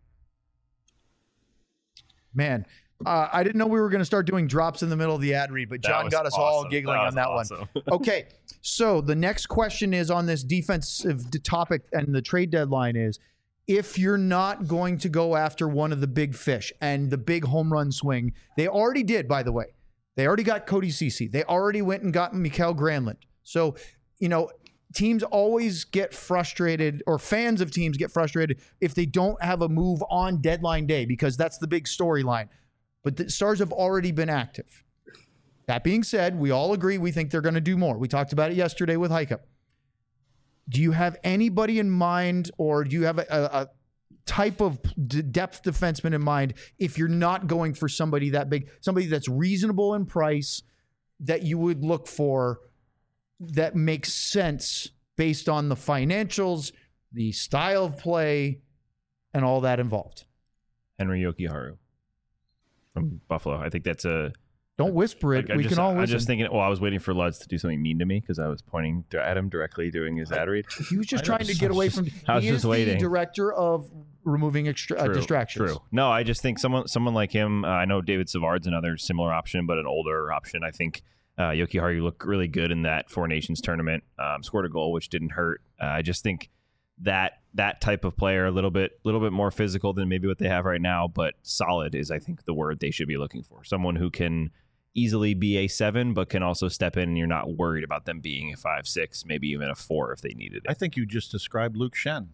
Speaker 4: Man, uh, I didn't know we were going to start doing drops in the middle of the ad read, but
Speaker 2: That
Speaker 4: John
Speaker 2: was
Speaker 4: got us
Speaker 2: awesome.
Speaker 4: all giggling
Speaker 2: That
Speaker 4: on
Speaker 2: was
Speaker 4: that
Speaker 2: awesome.
Speaker 4: one. Okay, so the next question is on this defensive d- topic, and the trade deadline is, if you're not going to go after one of the big fish and the big home run swing, they already did, by the way. They already got Cody Ceci. They already went and got Mikael Granlund. So, you know, teams always get frustrated, or fans of teams get frustrated if they don't have a move on deadline day, because that's the big storyline. But the Stars have already been active. That being said, we all agree we think they're going to do more. We talked about it yesterday with Heika. Do you have anybody in mind, or do you have a, a type of d- depth defenseman in mind if you're not going for somebody that big, somebody that's reasonable in price that you would look for that makes sense based on the financials, the style of play, and all that involved?
Speaker 2: Henry Yokiharu from Buffalo. I think that's a.
Speaker 4: Don't whisper it.
Speaker 2: Like,
Speaker 4: we
Speaker 2: just,
Speaker 4: can all
Speaker 2: I'm
Speaker 4: listen.
Speaker 2: just thinking. Well, I was waiting for Lutz to do something mean to me because I was pointing to, at him directly doing his ad read.
Speaker 4: He was just trying to get away from.
Speaker 2: I was
Speaker 4: he
Speaker 2: just
Speaker 4: is the
Speaker 2: waiting.
Speaker 4: director of removing extra, uh,
Speaker 2: True,
Speaker 4: distractions.
Speaker 2: True. No, I just think someone someone like him. Uh, I know David Savard's another similar option, but an older option. I think uh, Yokiharu looked really good in that Four Nations tournament. Um, scored a goal, which didn't hurt. Uh, I just think that that type of player, a little bit, little bit more physical than maybe what they have right now, but solid is, I think, the word they should be looking for. Someone who can easily be a seven, but can also step in and you're not worried about them being a five, six, maybe even a four if they needed it.
Speaker 3: I think you just described Luke Shen.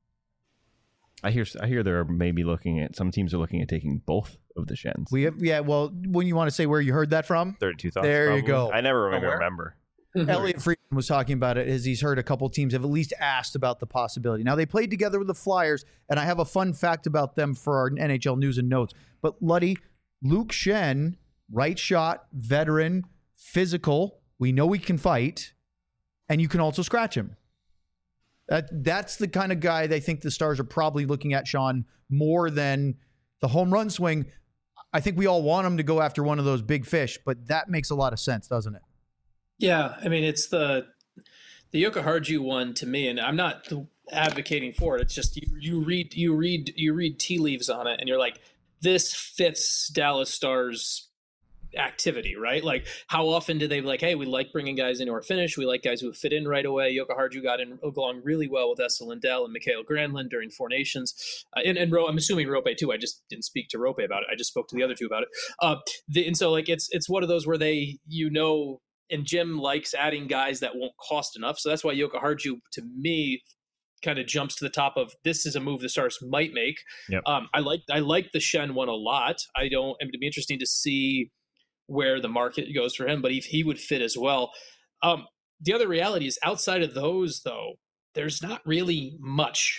Speaker 2: I hear I hear they're maybe looking at, some teams are looking at taking both of the Shens.
Speaker 4: We have, yeah. Well, when you want to say where you heard that from,
Speaker 2: thirty-two thoughts.
Speaker 4: There you
Speaker 2: probably.
Speaker 4: go.
Speaker 2: I never really
Speaker 3: where?
Speaker 2: remember.
Speaker 4: Elliot Friedman was talking about it as he's heard a couple teams have at least asked about the possibility. Now, they played together with the Flyers, and I have a fun fact about them for our N H L news and notes. But Luddy, Luke Shen, right shot, veteran, physical. We know he can fight, and you can also scratch him. That That's the kind of guy they think the Stars are probably looking at, Sean, more than the home run swing. I think we all want him to go after one of those big fish, but that makes a lot of sense, doesn't it?
Speaker 8: Yeah, I mean, it's the the Yokoharju one to me, and I'm not advocating for it. It's just you, you read you read you read tea leaves on it, and you're like, this fits Dallas Stars activity, right? Like, how often do they be like, hey, we like bringing guys into our finish, we like guys who fit in right away. Yokoharju got in along really well with Esa Lindell and Mikael Granlund during Four Nations, uh, and and Ro- I'm assuming Rope too. I just didn't speak to Rope about it. I just spoke to the other two about it. Uh, the, and so like it's it's one of those where they you know. And Jim likes adding guys that won't cost enough. So that's why Yokoharju, to me, kind of jumps to the top of this is a move the Stars might make.
Speaker 2: Yep.
Speaker 8: Um, I like I like the Shen one a lot. I don't. I mean, it'd be interesting to see where the market goes for him, but if he would fit as well. Um, the other reality is outside of those, though, there's not really much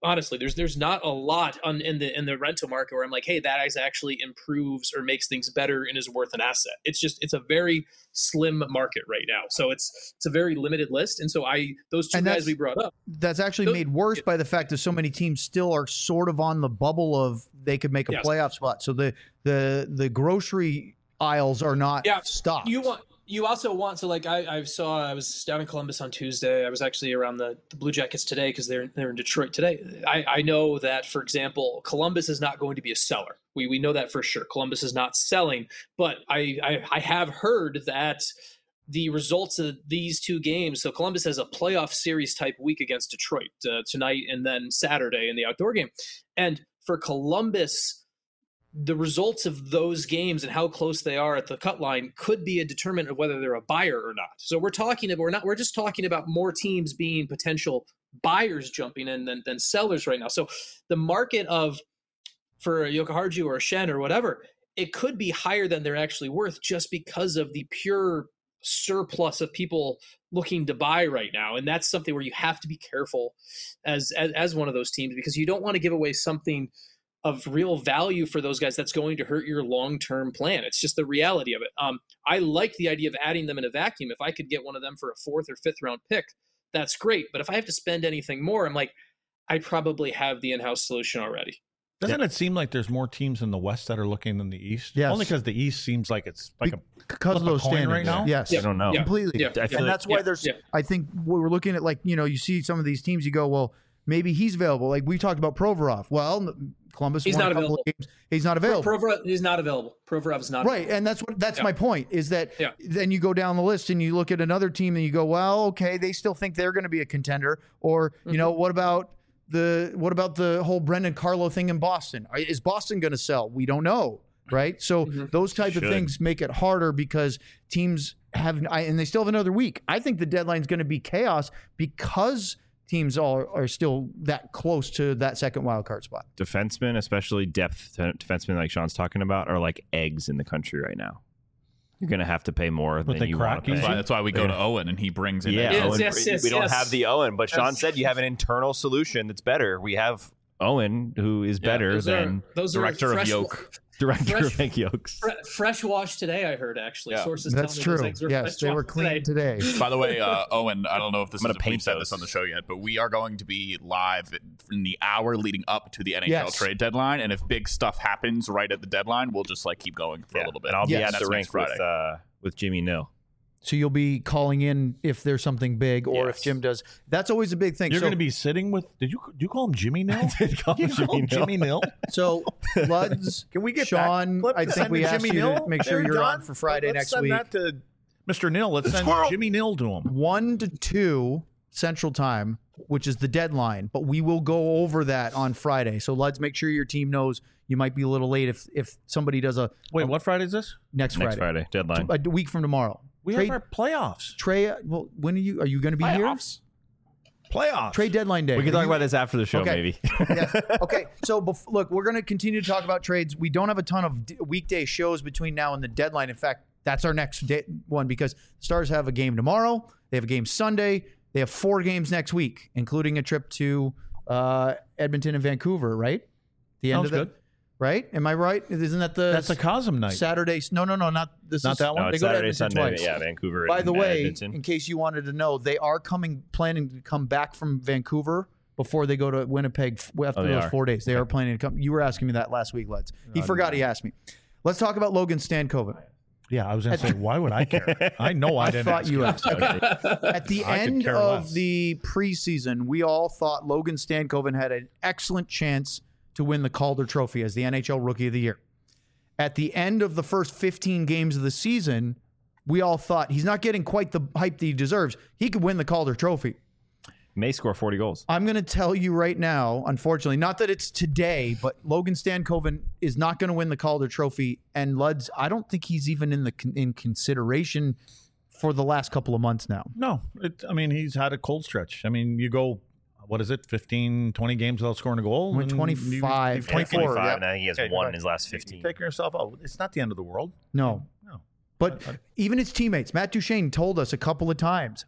Speaker 8: Honestly, there's there's not a lot on in the in the rental market where I'm like, hey, that actually improves or makes things better and is worth an asset. It's just it's a very slim market right now, so it's it's a very limited list. And so I those two
Speaker 4: And
Speaker 8: guys
Speaker 4: that's-
Speaker 8: we brought up,
Speaker 4: That's actually
Speaker 8: Those-
Speaker 4: made worse by the fact that so many teams still are sort of on the bubble of they could make a
Speaker 8: Yes.
Speaker 4: playoff spot. So the the the grocery aisles are not
Speaker 8: Yeah,
Speaker 4: stocked.
Speaker 8: you want you also want to like I, I saw I was down in Columbus on Tuesday. I was actually around the, the Blue Jackets today because they're they're in Detroit today. I, I know that, for example, Columbus is not going to be a seller. We we know that for sure. Columbus is not selling, but I I, I have heard that the results of these two games. So Columbus has a playoff series type week against Detroit uh, tonight and then Saturday in the outdoor game, and for Columbus, the results of those games and how close they are at the cut line could be a determinant of whether they're a buyer or not. So we're talking about, we're not, we're just talking about more teams being potential buyers jumping in than, than sellers right now. So the market of, for a Yokoharju or a Shen or whatever, it could be higher than they're actually worth just because of the pure surplus of people looking to buy right now. And that's something where you have to be careful as, as, as one of those teams, because you don't want to give away something of real value for those guys that's going to hurt your long-term plan. It's just the reality of it. Um, I like the idea of adding them in a vacuum. If I could get one of them for a fourth or fifth round pick, that's great. But if I have to spend anything more, I'm like, I probably have the in-house solution already.
Speaker 3: Doesn't it seem like there's more teams in the West that are looking than the East?
Speaker 4: Yes.
Speaker 3: Only because the East seems like it's like a
Speaker 4: because of
Speaker 3: flip a
Speaker 4: those
Speaker 3: coin
Speaker 4: standards
Speaker 3: right now?
Speaker 4: Yes,
Speaker 2: I don't know.
Speaker 8: Yeah.
Speaker 4: completely.
Speaker 8: Yeah.
Speaker 2: I feel
Speaker 4: And
Speaker 2: like-
Speaker 4: that's why
Speaker 8: Yeah.
Speaker 4: there's.
Speaker 8: Yeah.
Speaker 4: I think we we're looking at, like, you know, you see some of these teams, you go, well, maybe he's available. Like we talked about Provorov. Well, Columbus
Speaker 8: He's
Speaker 4: won
Speaker 8: not
Speaker 4: a couple
Speaker 8: available.
Speaker 4: of games. He's not available.
Speaker 8: Provorov is not available. Provorov is not
Speaker 4: Right, and that's what that's
Speaker 8: Yeah.
Speaker 4: my point is that
Speaker 8: Yeah.
Speaker 4: then you go down the list and you look at another team and you go, well, okay, they still think they're going to be a contender, or you know, what about the what about the whole Brendan Carlo thing in Boston? Is Boston going to sell? We don't know, right? So those type
Speaker 2: Should.
Speaker 4: of things make it harder because teams have I, and they still have another week. I think the deadline's going to be chaos because teams all are still that close to that second wild card spot.
Speaker 2: Defensemen, especially depth t- defensemen like Sean's talking about, are like eggs in the country right now. You're going to have to pay more
Speaker 3: But
Speaker 2: than
Speaker 3: they
Speaker 2: you
Speaker 3: crack
Speaker 2: want to
Speaker 3: easy?
Speaker 2: pay.
Speaker 1: That's why, that's why we go
Speaker 2: Yeah.
Speaker 1: to Owen and he brings in.
Speaker 2: Yeah,
Speaker 8: Yes,
Speaker 2: Owen,
Speaker 8: yes, yes,
Speaker 2: we don't
Speaker 8: yes.
Speaker 2: have the Owen, but Sean
Speaker 8: That's-
Speaker 2: said you have an internal solution that's better. We have Owen, who is
Speaker 1: Yeah,
Speaker 2: better
Speaker 8: Those
Speaker 2: than
Speaker 8: are, those
Speaker 1: director
Speaker 8: are
Speaker 1: of
Speaker 8: fresh,
Speaker 1: Yoke.
Speaker 2: director
Speaker 8: fresh-
Speaker 2: of Hank Yokes.
Speaker 8: fre- fresh wash today, I heard, actually.
Speaker 1: Yeah.
Speaker 8: Sources
Speaker 4: That's
Speaker 8: tell me those
Speaker 4: true.
Speaker 8: eggs were
Speaker 4: Yes,
Speaker 8: fresh
Speaker 4: they were
Speaker 8: washed
Speaker 4: clean today.
Speaker 1: By the way, uh, Owen, I don't know if this
Speaker 2: I'm
Speaker 1: is
Speaker 2: gonna
Speaker 1: if we've
Speaker 2: paint
Speaker 1: said
Speaker 2: those.
Speaker 1: this on the show yet, but we are going to be live in the hour leading up to the N H L
Speaker 4: Yes.
Speaker 1: trade deadline. And if big stuff happens right at the deadline, we'll just like keep going for
Speaker 2: Yeah,
Speaker 1: a little bit.
Speaker 2: and I'll
Speaker 4: Yes.
Speaker 2: be at
Speaker 1: That's
Speaker 2: the rink
Speaker 1: next Friday.
Speaker 2: with uh, with Jimmy Nill.
Speaker 4: So you'll be calling in if there's something big, or if
Speaker 2: Yes.
Speaker 4: Jim does. That's always a big thing.
Speaker 3: You're
Speaker 4: so,
Speaker 3: going to be sitting with. Did you do you call him Jimmy Nill?
Speaker 2: did call
Speaker 3: you
Speaker 2: him
Speaker 3: call him
Speaker 2: Jimmy
Speaker 3: Jimmy Nill?
Speaker 4: so Luds,
Speaker 3: Can we get
Speaker 4: Sean?
Speaker 3: that clip
Speaker 4: I
Speaker 3: to
Speaker 4: think
Speaker 3: send
Speaker 4: we
Speaker 3: to
Speaker 4: asked
Speaker 3: Jimmy
Speaker 4: you to
Speaker 3: Nill?
Speaker 4: make sure
Speaker 3: There,
Speaker 4: you're
Speaker 3: John?
Speaker 4: on for Friday
Speaker 3: Let's
Speaker 4: next
Speaker 3: send
Speaker 4: week.
Speaker 3: that to Mister Nill. Let's send
Speaker 2: Squirrel.
Speaker 3: Jimmy Nill to him.
Speaker 4: One to two Central Time, which is the deadline, but we will go over that on Friday. So Luds, make sure your team knows you might be a little late if if somebody does a
Speaker 3: Wait, what Friday is this?
Speaker 4: next,
Speaker 2: Next
Speaker 4: Friday,
Speaker 2: Friday, deadline.
Speaker 4: a week from tomorrow.
Speaker 3: We
Speaker 4: Trade,
Speaker 3: have our playoffs.
Speaker 4: Trey, well, when are you? Are you going to be
Speaker 1: Playoffs.
Speaker 3: Playoffs.
Speaker 4: here? Trade deadline day.
Speaker 2: We can
Speaker 4: Are
Speaker 2: talk
Speaker 4: you-
Speaker 2: about this after the show,
Speaker 4: Okay.
Speaker 2: maybe.
Speaker 4: yeah. Okay. So bef- look, we're going to continue to talk about trades. We don't have a ton of d- weekday shows between now and the deadline. In fact, that's our next day- one because Stars have a game tomorrow. They have a game Sunday. They have four games next week, including a trip to uh, Edmonton and Vancouver. Right? The end
Speaker 3: Sounds
Speaker 4: of the,
Speaker 3: good.
Speaker 4: Right? Am I right? Isn't that the
Speaker 3: That's a Cosm night.
Speaker 4: Saturday? No, no, no, not this.
Speaker 3: Not
Speaker 4: is,
Speaker 3: that one?
Speaker 2: No,
Speaker 4: They
Speaker 2: it's
Speaker 4: go to
Speaker 2: Saturday,
Speaker 4: Edmonton
Speaker 2: Sunday.
Speaker 4: twice.
Speaker 2: Yeah, Vancouver.
Speaker 4: By
Speaker 2: and
Speaker 4: the way,
Speaker 2: Edmonton.
Speaker 4: in case you wanted to know, they are coming, planning to come back from Vancouver before they go to Winnipeg f- after
Speaker 2: Oh, they
Speaker 4: those
Speaker 2: are?
Speaker 4: four days. They are planning to come. You were asking me that last week, Leds. He forgot he asked me. Let's talk about Logan Stankoven.
Speaker 3: Yeah, I was going to say, why would I care? I know I,
Speaker 4: I
Speaker 3: didn't.
Speaker 4: thought
Speaker 3: ask
Speaker 4: you
Speaker 3: him.
Speaker 4: asked. Okay. At the
Speaker 3: I could
Speaker 4: end
Speaker 3: care
Speaker 4: of
Speaker 3: less.
Speaker 4: the preseason, we all thought Logan Stankoven had an excellent chance to win the Calder Trophy as the N H L Rookie of the Year. At the end of the first fifteen games of the season, we all thought he's not getting quite the hype that he deserves. He could win the Calder Trophy.
Speaker 2: May score forty goals.
Speaker 4: I'm going to tell you right now, unfortunately, not that it's today, but Logan Stankoven is not going to win the Calder Trophy. And Luds, I don't think he's even in the in consideration for the last couple of months now.
Speaker 3: No, it, I mean, he's had a cold stretch. I mean, you go, what is it, fifteen, twenty games without scoring a goal?
Speaker 4: Went
Speaker 3: and
Speaker 4: twenty-five,
Speaker 3: you- you-
Speaker 4: twenty-four.
Speaker 2: twenty-five,
Speaker 4: yeah.
Speaker 2: and I think he has
Speaker 3: Okay,
Speaker 2: one
Speaker 3: right.
Speaker 2: in his last
Speaker 3: You're
Speaker 2: fifteen.
Speaker 3: taking yourself out. It's not the end of the world.
Speaker 4: No.
Speaker 3: No.
Speaker 4: But even his teammates, Matt Duchene told us a couple of times,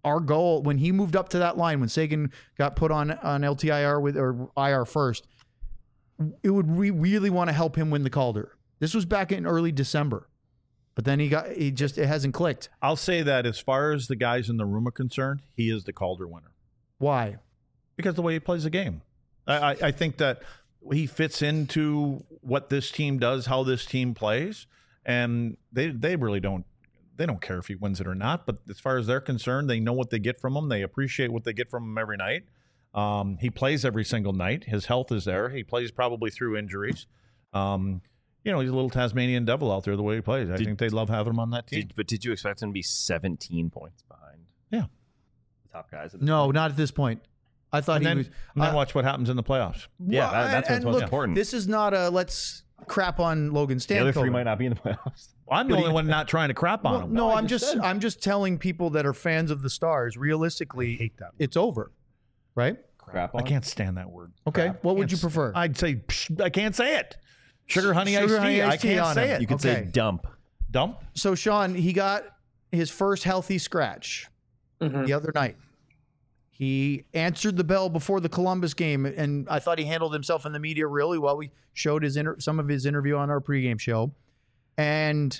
Speaker 4: our goal when he moved up to that line, when Sagan got put on on L T I R with or I R first, it would we really want to help him win the Calder. This was back in early December, but then he got he just it hasn't clicked.
Speaker 3: I'll say that as far as the guys in the room are concerned, he is the Calder winner.
Speaker 4: Why?
Speaker 3: Because the way he plays the game. I, I, I think that he fits into what this team does, how this team plays, and they they really don't they don't care if he wins it or not. But as far as they're concerned, they know what they get from him. They appreciate what they get from him every night. Um, he plays every single night. His health is there. He plays probably through injuries. Um, you know, he's a little Tasmanian devil out there the way he plays. I
Speaker 2: Did-
Speaker 3: think they love having him on that team.
Speaker 2: Did, but did you expect him to be seventeen points behind?
Speaker 3: Yeah.
Speaker 2: The top guys. At this
Speaker 4: No,
Speaker 2: point?
Speaker 4: not at this point. I thought
Speaker 3: And
Speaker 4: he
Speaker 3: then,
Speaker 4: was.
Speaker 3: and then
Speaker 4: I-
Speaker 3: watch what happens in the playoffs.
Speaker 2: Yeah, that- that's what's
Speaker 4: and
Speaker 2: most
Speaker 4: look,
Speaker 2: important.
Speaker 4: This is not a let's crap on Logan
Speaker 2: The other three
Speaker 4: Stankoven.
Speaker 2: might not be in the playoffs.
Speaker 3: I'm the only one not trying to crap on
Speaker 4: Well,
Speaker 3: him.
Speaker 4: no,
Speaker 2: I
Speaker 4: I'm
Speaker 2: just
Speaker 4: just
Speaker 2: said.
Speaker 4: I'm just telling people that are fans of the Stars. Realistically,
Speaker 3: hate that word.
Speaker 4: it's over, right?
Speaker 2: Crap
Speaker 3: I
Speaker 2: on.
Speaker 3: can't stand that word.
Speaker 4: Okay,
Speaker 3: Crap.
Speaker 4: what would
Speaker 3: Can't
Speaker 4: you
Speaker 3: stand-
Speaker 4: prefer?
Speaker 3: I'd say psh, I can't say it. Sugar honey
Speaker 4: Sugar,
Speaker 3: iced
Speaker 4: honey,
Speaker 3: tea. I
Speaker 4: iced tea
Speaker 3: can't
Speaker 4: on
Speaker 3: say
Speaker 4: him.
Speaker 3: it.
Speaker 2: You could
Speaker 4: Okay.
Speaker 2: say dump.
Speaker 3: Dump.
Speaker 4: So Sean, he got his first healthy scratch
Speaker 8: Mhm.
Speaker 4: the other night. He answered the bell before the Columbus game, and I thought he handled himself in the media really well. We showed his inter- some of his interview on our pregame show, and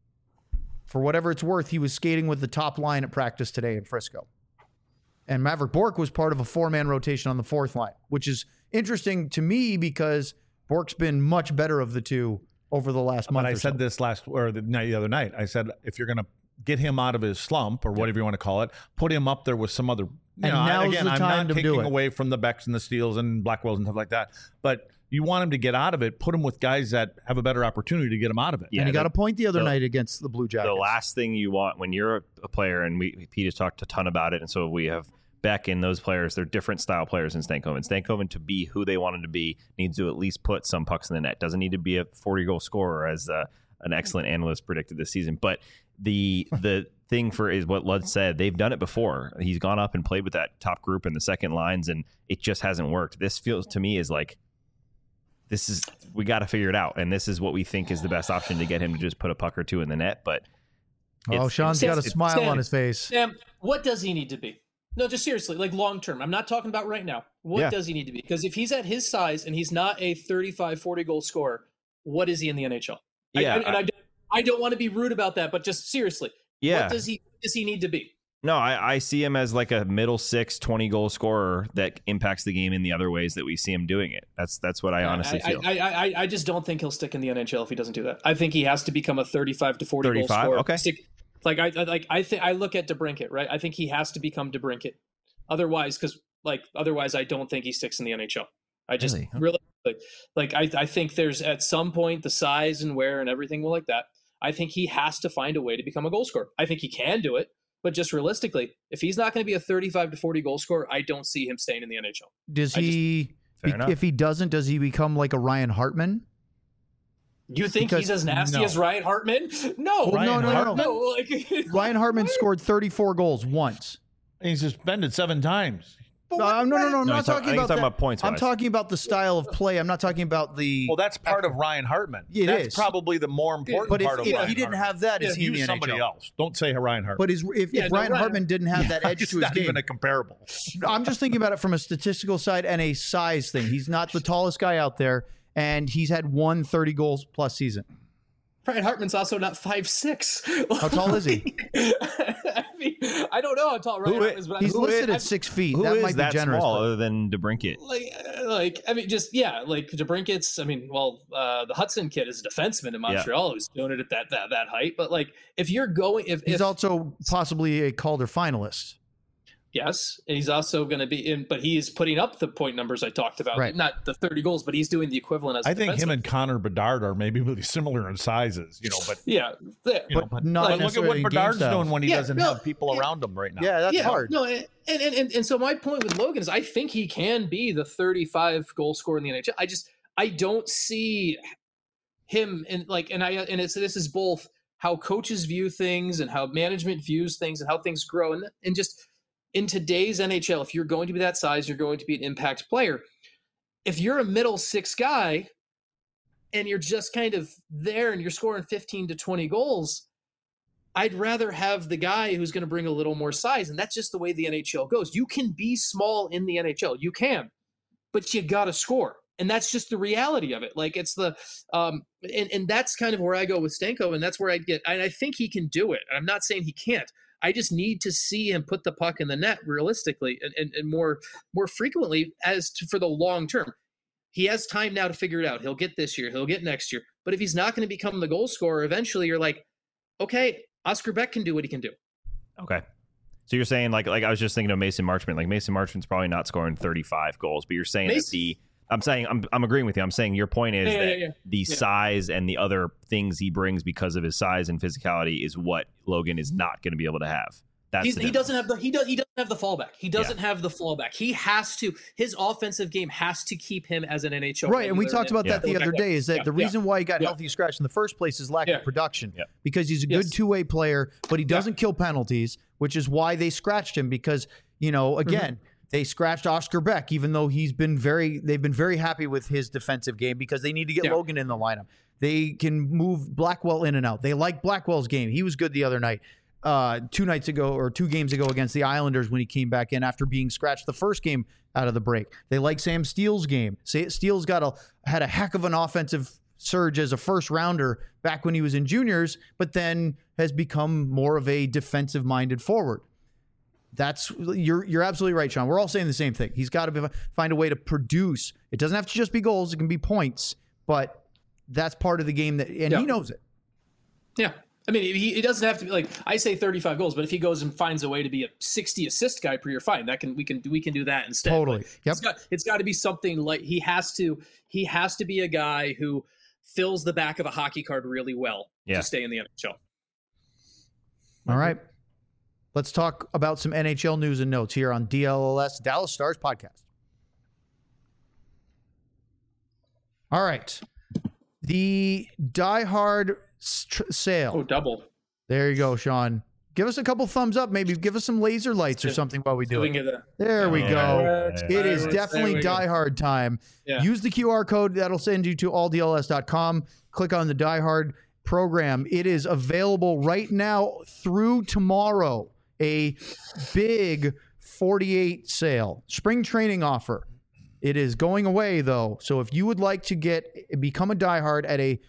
Speaker 4: for whatever it's worth, he was skating with the top line at practice today in Frisco. And Maverick Bourque was part of a four-man rotation on the fourth line, which is interesting to me because Bourque's been much better of the two over the last month.
Speaker 3: But I
Speaker 4: or
Speaker 3: said
Speaker 4: so.
Speaker 3: this last or the night the other night. I said if you're going to get him out of his slump or whatever you want to call it, put him up there with some other. You
Speaker 4: And
Speaker 3: know, I-
Speaker 4: now's
Speaker 3: again,
Speaker 4: the
Speaker 3: I'm
Speaker 4: time
Speaker 3: not
Speaker 4: to do
Speaker 3: taking
Speaker 4: it.
Speaker 3: away from the Becks and the Steels and Blackwells and stuff like that. But you want him to get out of it. Put him with guys that have a better opportunity to get him out of it.
Speaker 2: Yeah,
Speaker 4: and he got
Speaker 2: the-
Speaker 4: a point the other
Speaker 2: the-
Speaker 4: night against the Blue Jackets.
Speaker 2: The last thing you want when you're a, a player, and we Pete has talked a ton about it, and so we have Beck and those players. They're different style players in Stankoven. Stankoven, to be who they want him to be, needs to at least put some pucks in the net. Doesn't need to be a forty goal scorer, as uh, an excellent analyst predicted this season. But the the thing for is what Lud said. They've done it before. He's gone up and played with that top group in the second lines, and it just hasn't worked. This feels to me is like this is we got to figure it out, and this is what we think is the best option to get him to just put a puck or two in the net. But
Speaker 4: oh,
Speaker 2: it's-
Speaker 4: Sean's
Speaker 8: it's-
Speaker 4: got a
Speaker 8: it's-
Speaker 4: smile
Speaker 8: Sam,
Speaker 4: on his face.
Speaker 8: Sam, what does he need to be? No, just seriously, like long term. I'm not talking about right now. What
Speaker 4: Yeah.
Speaker 8: does he need to be? Because if he's at his size and he's not a thirty-five, forty goal scorer, what is he in the N H L? I-
Speaker 2: Yeah,
Speaker 8: I, and I, don't- I don't want to be rude about that, but just seriously,
Speaker 2: yeah,
Speaker 8: what does he does he need to be?
Speaker 2: No, I, I see him as like a middle six, twenty goal scorer that impacts the game in the other ways that we see him doing it. That's that's what I honestly
Speaker 8: I,
Speaker 2: feel.
Speaker 8: I, I, I, I just don't think he'll stick in the N H L if he doesn't do that. I think he has to become a thirty-five to forty goal
Speaker 2: thirty-five?
Speaker 8: scorer.
Speaker 2: Okay.
Speaker 8: Stick, like I I- like I think I look at DeBrincat, right? I think he has to become DeBrincat. Otherwise, because like otherwise, I don't think he sticks in the N H L. I just
Speaker 2: Really?
Speaker 8: really like, like I, I think there's at some point the size and wear and everything will like that. I think he has to find a way to become a goal scorer. I think he can do it, but just realistically, if he's not going to be a thirty-five to forty goal scorer, I don't see him staying in the N H L.
Speaker 4: Does
Speaker 8: I just-
Speaker 4: he?
Speaker 2: Fair
Speaker 4: be-
Speaker 2: enough.
Speaker 4: if he doesn't, does he become like a Ryan Hartman?
Speaker 8: You think
Speaker 4: Because-
Speaker 8: he's as nasty
Speaker 3: no.
Speaker 8: as Ryan Hartman? No,
Speaker 4: Well, no, no, no, no.
Speaker 8: no. Like,
Speaker 4: Ryan Hartman scored thirty-four goals once.
Speaker 3: He's suspended seven times.
Speaker 4: No, no, no, no. I'm
Speaker 2: No,
Speaker 4: not
Speaker 2: he's talk- I
Speaker 4: talking
Speaker 2: think he's
Speaker 4: about
Speaker 2: talking
Speaker 4: that.
Speaker 2: about points
Speaker 4: I'm
Speaker 2: wise.
Speaker 4: talking about the style of play. I'm not talking about the.
Speaker 3: Well, that's part of Ryan Hartman.
Speaker 4: It
Speaker 3: that's
Speaker 4: is.
Speaker 3: probably the more important
Speaker 4: but if,
Speaker 3: part of
Speaker 4: if
Speaker 3: Ryan
Speaker 4: he didn't
Speaker 3: Hartman.
Speaker 4: have that, is he in the
Speaker 3: Use
Speaker 4: N H L?
Speaker 3: somebody else. Don't say Ryan Hartman.
Speaker 4: But is, if,
Speaker 8: Yeah,
Speaker 4: if
Speaker 8: no,
Speaker 4: Ryan
Speaker 8: Ryan-
Speaker 4: Hartman didn't have that edge
Speaker 3: it's
Speaker 4: to his
Speaker 3: not
Speaker 4: game,
Speaker 3: even a comparable.
Speaker 4: I'm just thinking about it from a statistical side and a size thing. He's not the tallest guy out there, and he's had one thirty goals plus season.
Speaker 8: Ryan Hartman's also not five six.
Speaker 4: How tall is he?
Speaker 8: I mean, I don't know how tall Ryan
Speaker 2: Who
Speaker 8: Hartman
Speaker 2: is-
Speaker 8: is, but
Speaker 4: He's
Speaker 8: I'm,
Speaker 4: listed
Speaker 8: I'm,
Speaker 4: at six feet.
Speaker 2: Who
Speaker 4: that
Speaker 2: is
Speaker 4: might
Speaker 2: that
Speaker 4: be generous.
Speaker 2: small
Speaker 4: but-
Speaker 2: other than DeBrincat?
Speaker 8: like, uh, like, I mean, just yeah, like DeBrincat's. I mean, well, uh, the Hudson kid is a defenseman in Montreal who's doing it at that that that height. But like, if you're going, if,
Speaker 4: He's
Speaker 8: if
Speaker 4: also possibly a Calder finalist.
Speaker 8: yes, and he's also going to be in, but he is putting up the point numbers I talked about.
Speaker 4: Right.
Speaker 8: Not the thirty goals, but he's doing the equivalent as. a
Speaker 3: I think him
Speaker 8: defenseman.
Speaker 3: and Connor Bedard are maybe really similar in sizes, you know. But
Speaker 8: yeah, there.
Speaker 3: you know,
Speaker 4: But
Speaker 3: but,
Speaker 4: not
Speaker 3: but look at
Speaker 4: necessarily
Speaker 3: what
Speaker 4: in game
Speaker 3: Bedard's
Speaker 4: styles.
Speaker 3: doing when he
Speaker 8: Yeah,
Speaker 3: doesn't
Speaker 8: no,
Speaker 3: have people
Speaker 8: yeah.
Speaker 3: around him right now.
Speaker 4: Yeah, that's
Speaker 8: yeah,
Speaker 4: hard.
Speaker 8: No, and, and and and so my point with Logan is I think he can be the thirty-five goal scorer in the N H L. I just I don't see him in like and I and it's this is both how coaches view things and how management views things and how things grow and and just in today's N H L, if you're going to be that size, you're going to be an impact player. If you're a middle six guy and you're just kind of there and you're scoring fifteen to twenty goals, I'd rather have the guy who's going to bring a little more size, and that's just the way the N H L goes. You can be small in the N H L, you can, but you got to score, and that's just the reality of it. Like it's the, um, and and that's kind of where I go with Stanko, and that's where I get. And I think he can do it. I'm not saying he can't. I just need to see him put the puck in the net realistically and, and, and more more frequently as to for the long term. He has time now to figure it out. He'll get this year. He'll get next year. But if he's not going to become the goal scorer, eventually you're like, okay, Oscar Beck can do what he can do.
Speaker 2: Okay. So you're saying like like I was just thinking of Mason Marchment. Like Mason Marchment's probably not scoring thirty-five goals, but you're saying
Speaker 8: Mason,
Speaker 2: that the I'm saying I'm I'm agreeing with you. I'm saying your point is
Speaker 8: yeah,
Speaker 2: that
Speaker 8: yeah, yeah.
Speaker 2: the
Speaker 8: yeah.
Speaker 2: size and the other things he brings because of his size and physicality is what Logan is not going to be able to have. That's
Speaker 8: He's, he doesn't have the he does he doesn't have the fallback. He doesn't
Speaker 2: Yeah.
Speaker 8: have the fallback. He has to his offensive game has to keep him as an N H L
Speaker 4: Right, and we
Speaker 8: regular.
Speaker 4: talked about
Speaker 2: Yeah.
Speaker 4: that the other day. Is that
Speaker 8: Yeah,
Speaker 4: the
Speaker 8: yeah,
Speaker 4: reason why he got
Speaker 8: yeah.
Speaker 4: healthy scratch in the first place is lack
Speaker 8: Yeah.
Speaker 4: of production.
Speaker 2: Yeah.
Speaker 4: Because he's a
Speaker 8: Yes.
Speaker 4: good two-way player, but he doesn't kill penalties, which is why they scratched him. Because you know, again,
Speaker 8: Mm-hmm.
Speaker 4: they scratched Oscar Beck, even though he's been very. They've been very happy with his defensive game because they need to get
Speaker 8: Yeah.
Speaker 4: Logan in the lineup. They can move Blackwell in and out. They like Blackwell's game. He was good the other night. Uh, two nights ago or two games ago against the Islanders when he came back in after being scratched the first game out of the break. They like Sam Steele's game. Steele's got a had a heck of an offensive surge as a first rounder back when he was in juniors, but then has become more of a defensive minded forward. That's you're you're absolutely right, Sean. We're all saying the same thing. He's got to find a way to produce. It doesn't have to just be goals; it can be points, but that's part of the game that, and
Speaker 8: Yeah.
Speaker 4: he knows it.
Speaker 8: Yeah. I mean, he, he doesn't have to be like I say thirty-five goals, but if he goes and finds a way to be a sixty assist guy per year, fine. That can we can we can do that instead.
Speaker 4: Totally.
Speaker 8: But
Speaker 4: Yep.
Speaker 8: It's got it's got to be something like he has to he has to be a guy who fills the back of a hockey card really well
Speaker 2: Yeah.
Speaker 8: to stay in the N H L.
Speaker 4: All right. Let's talk about some N H L news and notes here on D L L S, Dallas Stars podcast. All right. The Die Hard tr- sale.
Speaker 8: Oh, double.
Speaker 4: There you go, Sean. Give us a couple thumbs up. Maybe give us some laser lights or something while we do
Speaker 8: Doing
Speaker 4: it.
Speaker 8: it. uh,
Speaker 4: There we
Speaker 2: Yeah.
Speaker 4: go.
Speaker 2: Yeah.
Speaker 4: It is
Speaker 8: There
Speaker 4: definitely
Speaker 8: we go.
Speaker 4: Die Hard time.
Speaker 8: Yeah.
Speaker 4: Use the Q R code. That'll send you to all D L S dot com. Click on the Die Hard program. It is available right now through tomorrow. A big forty-eight sale. Spring training offer. It is going away, though. So if you would like to get become a Die Hard at a,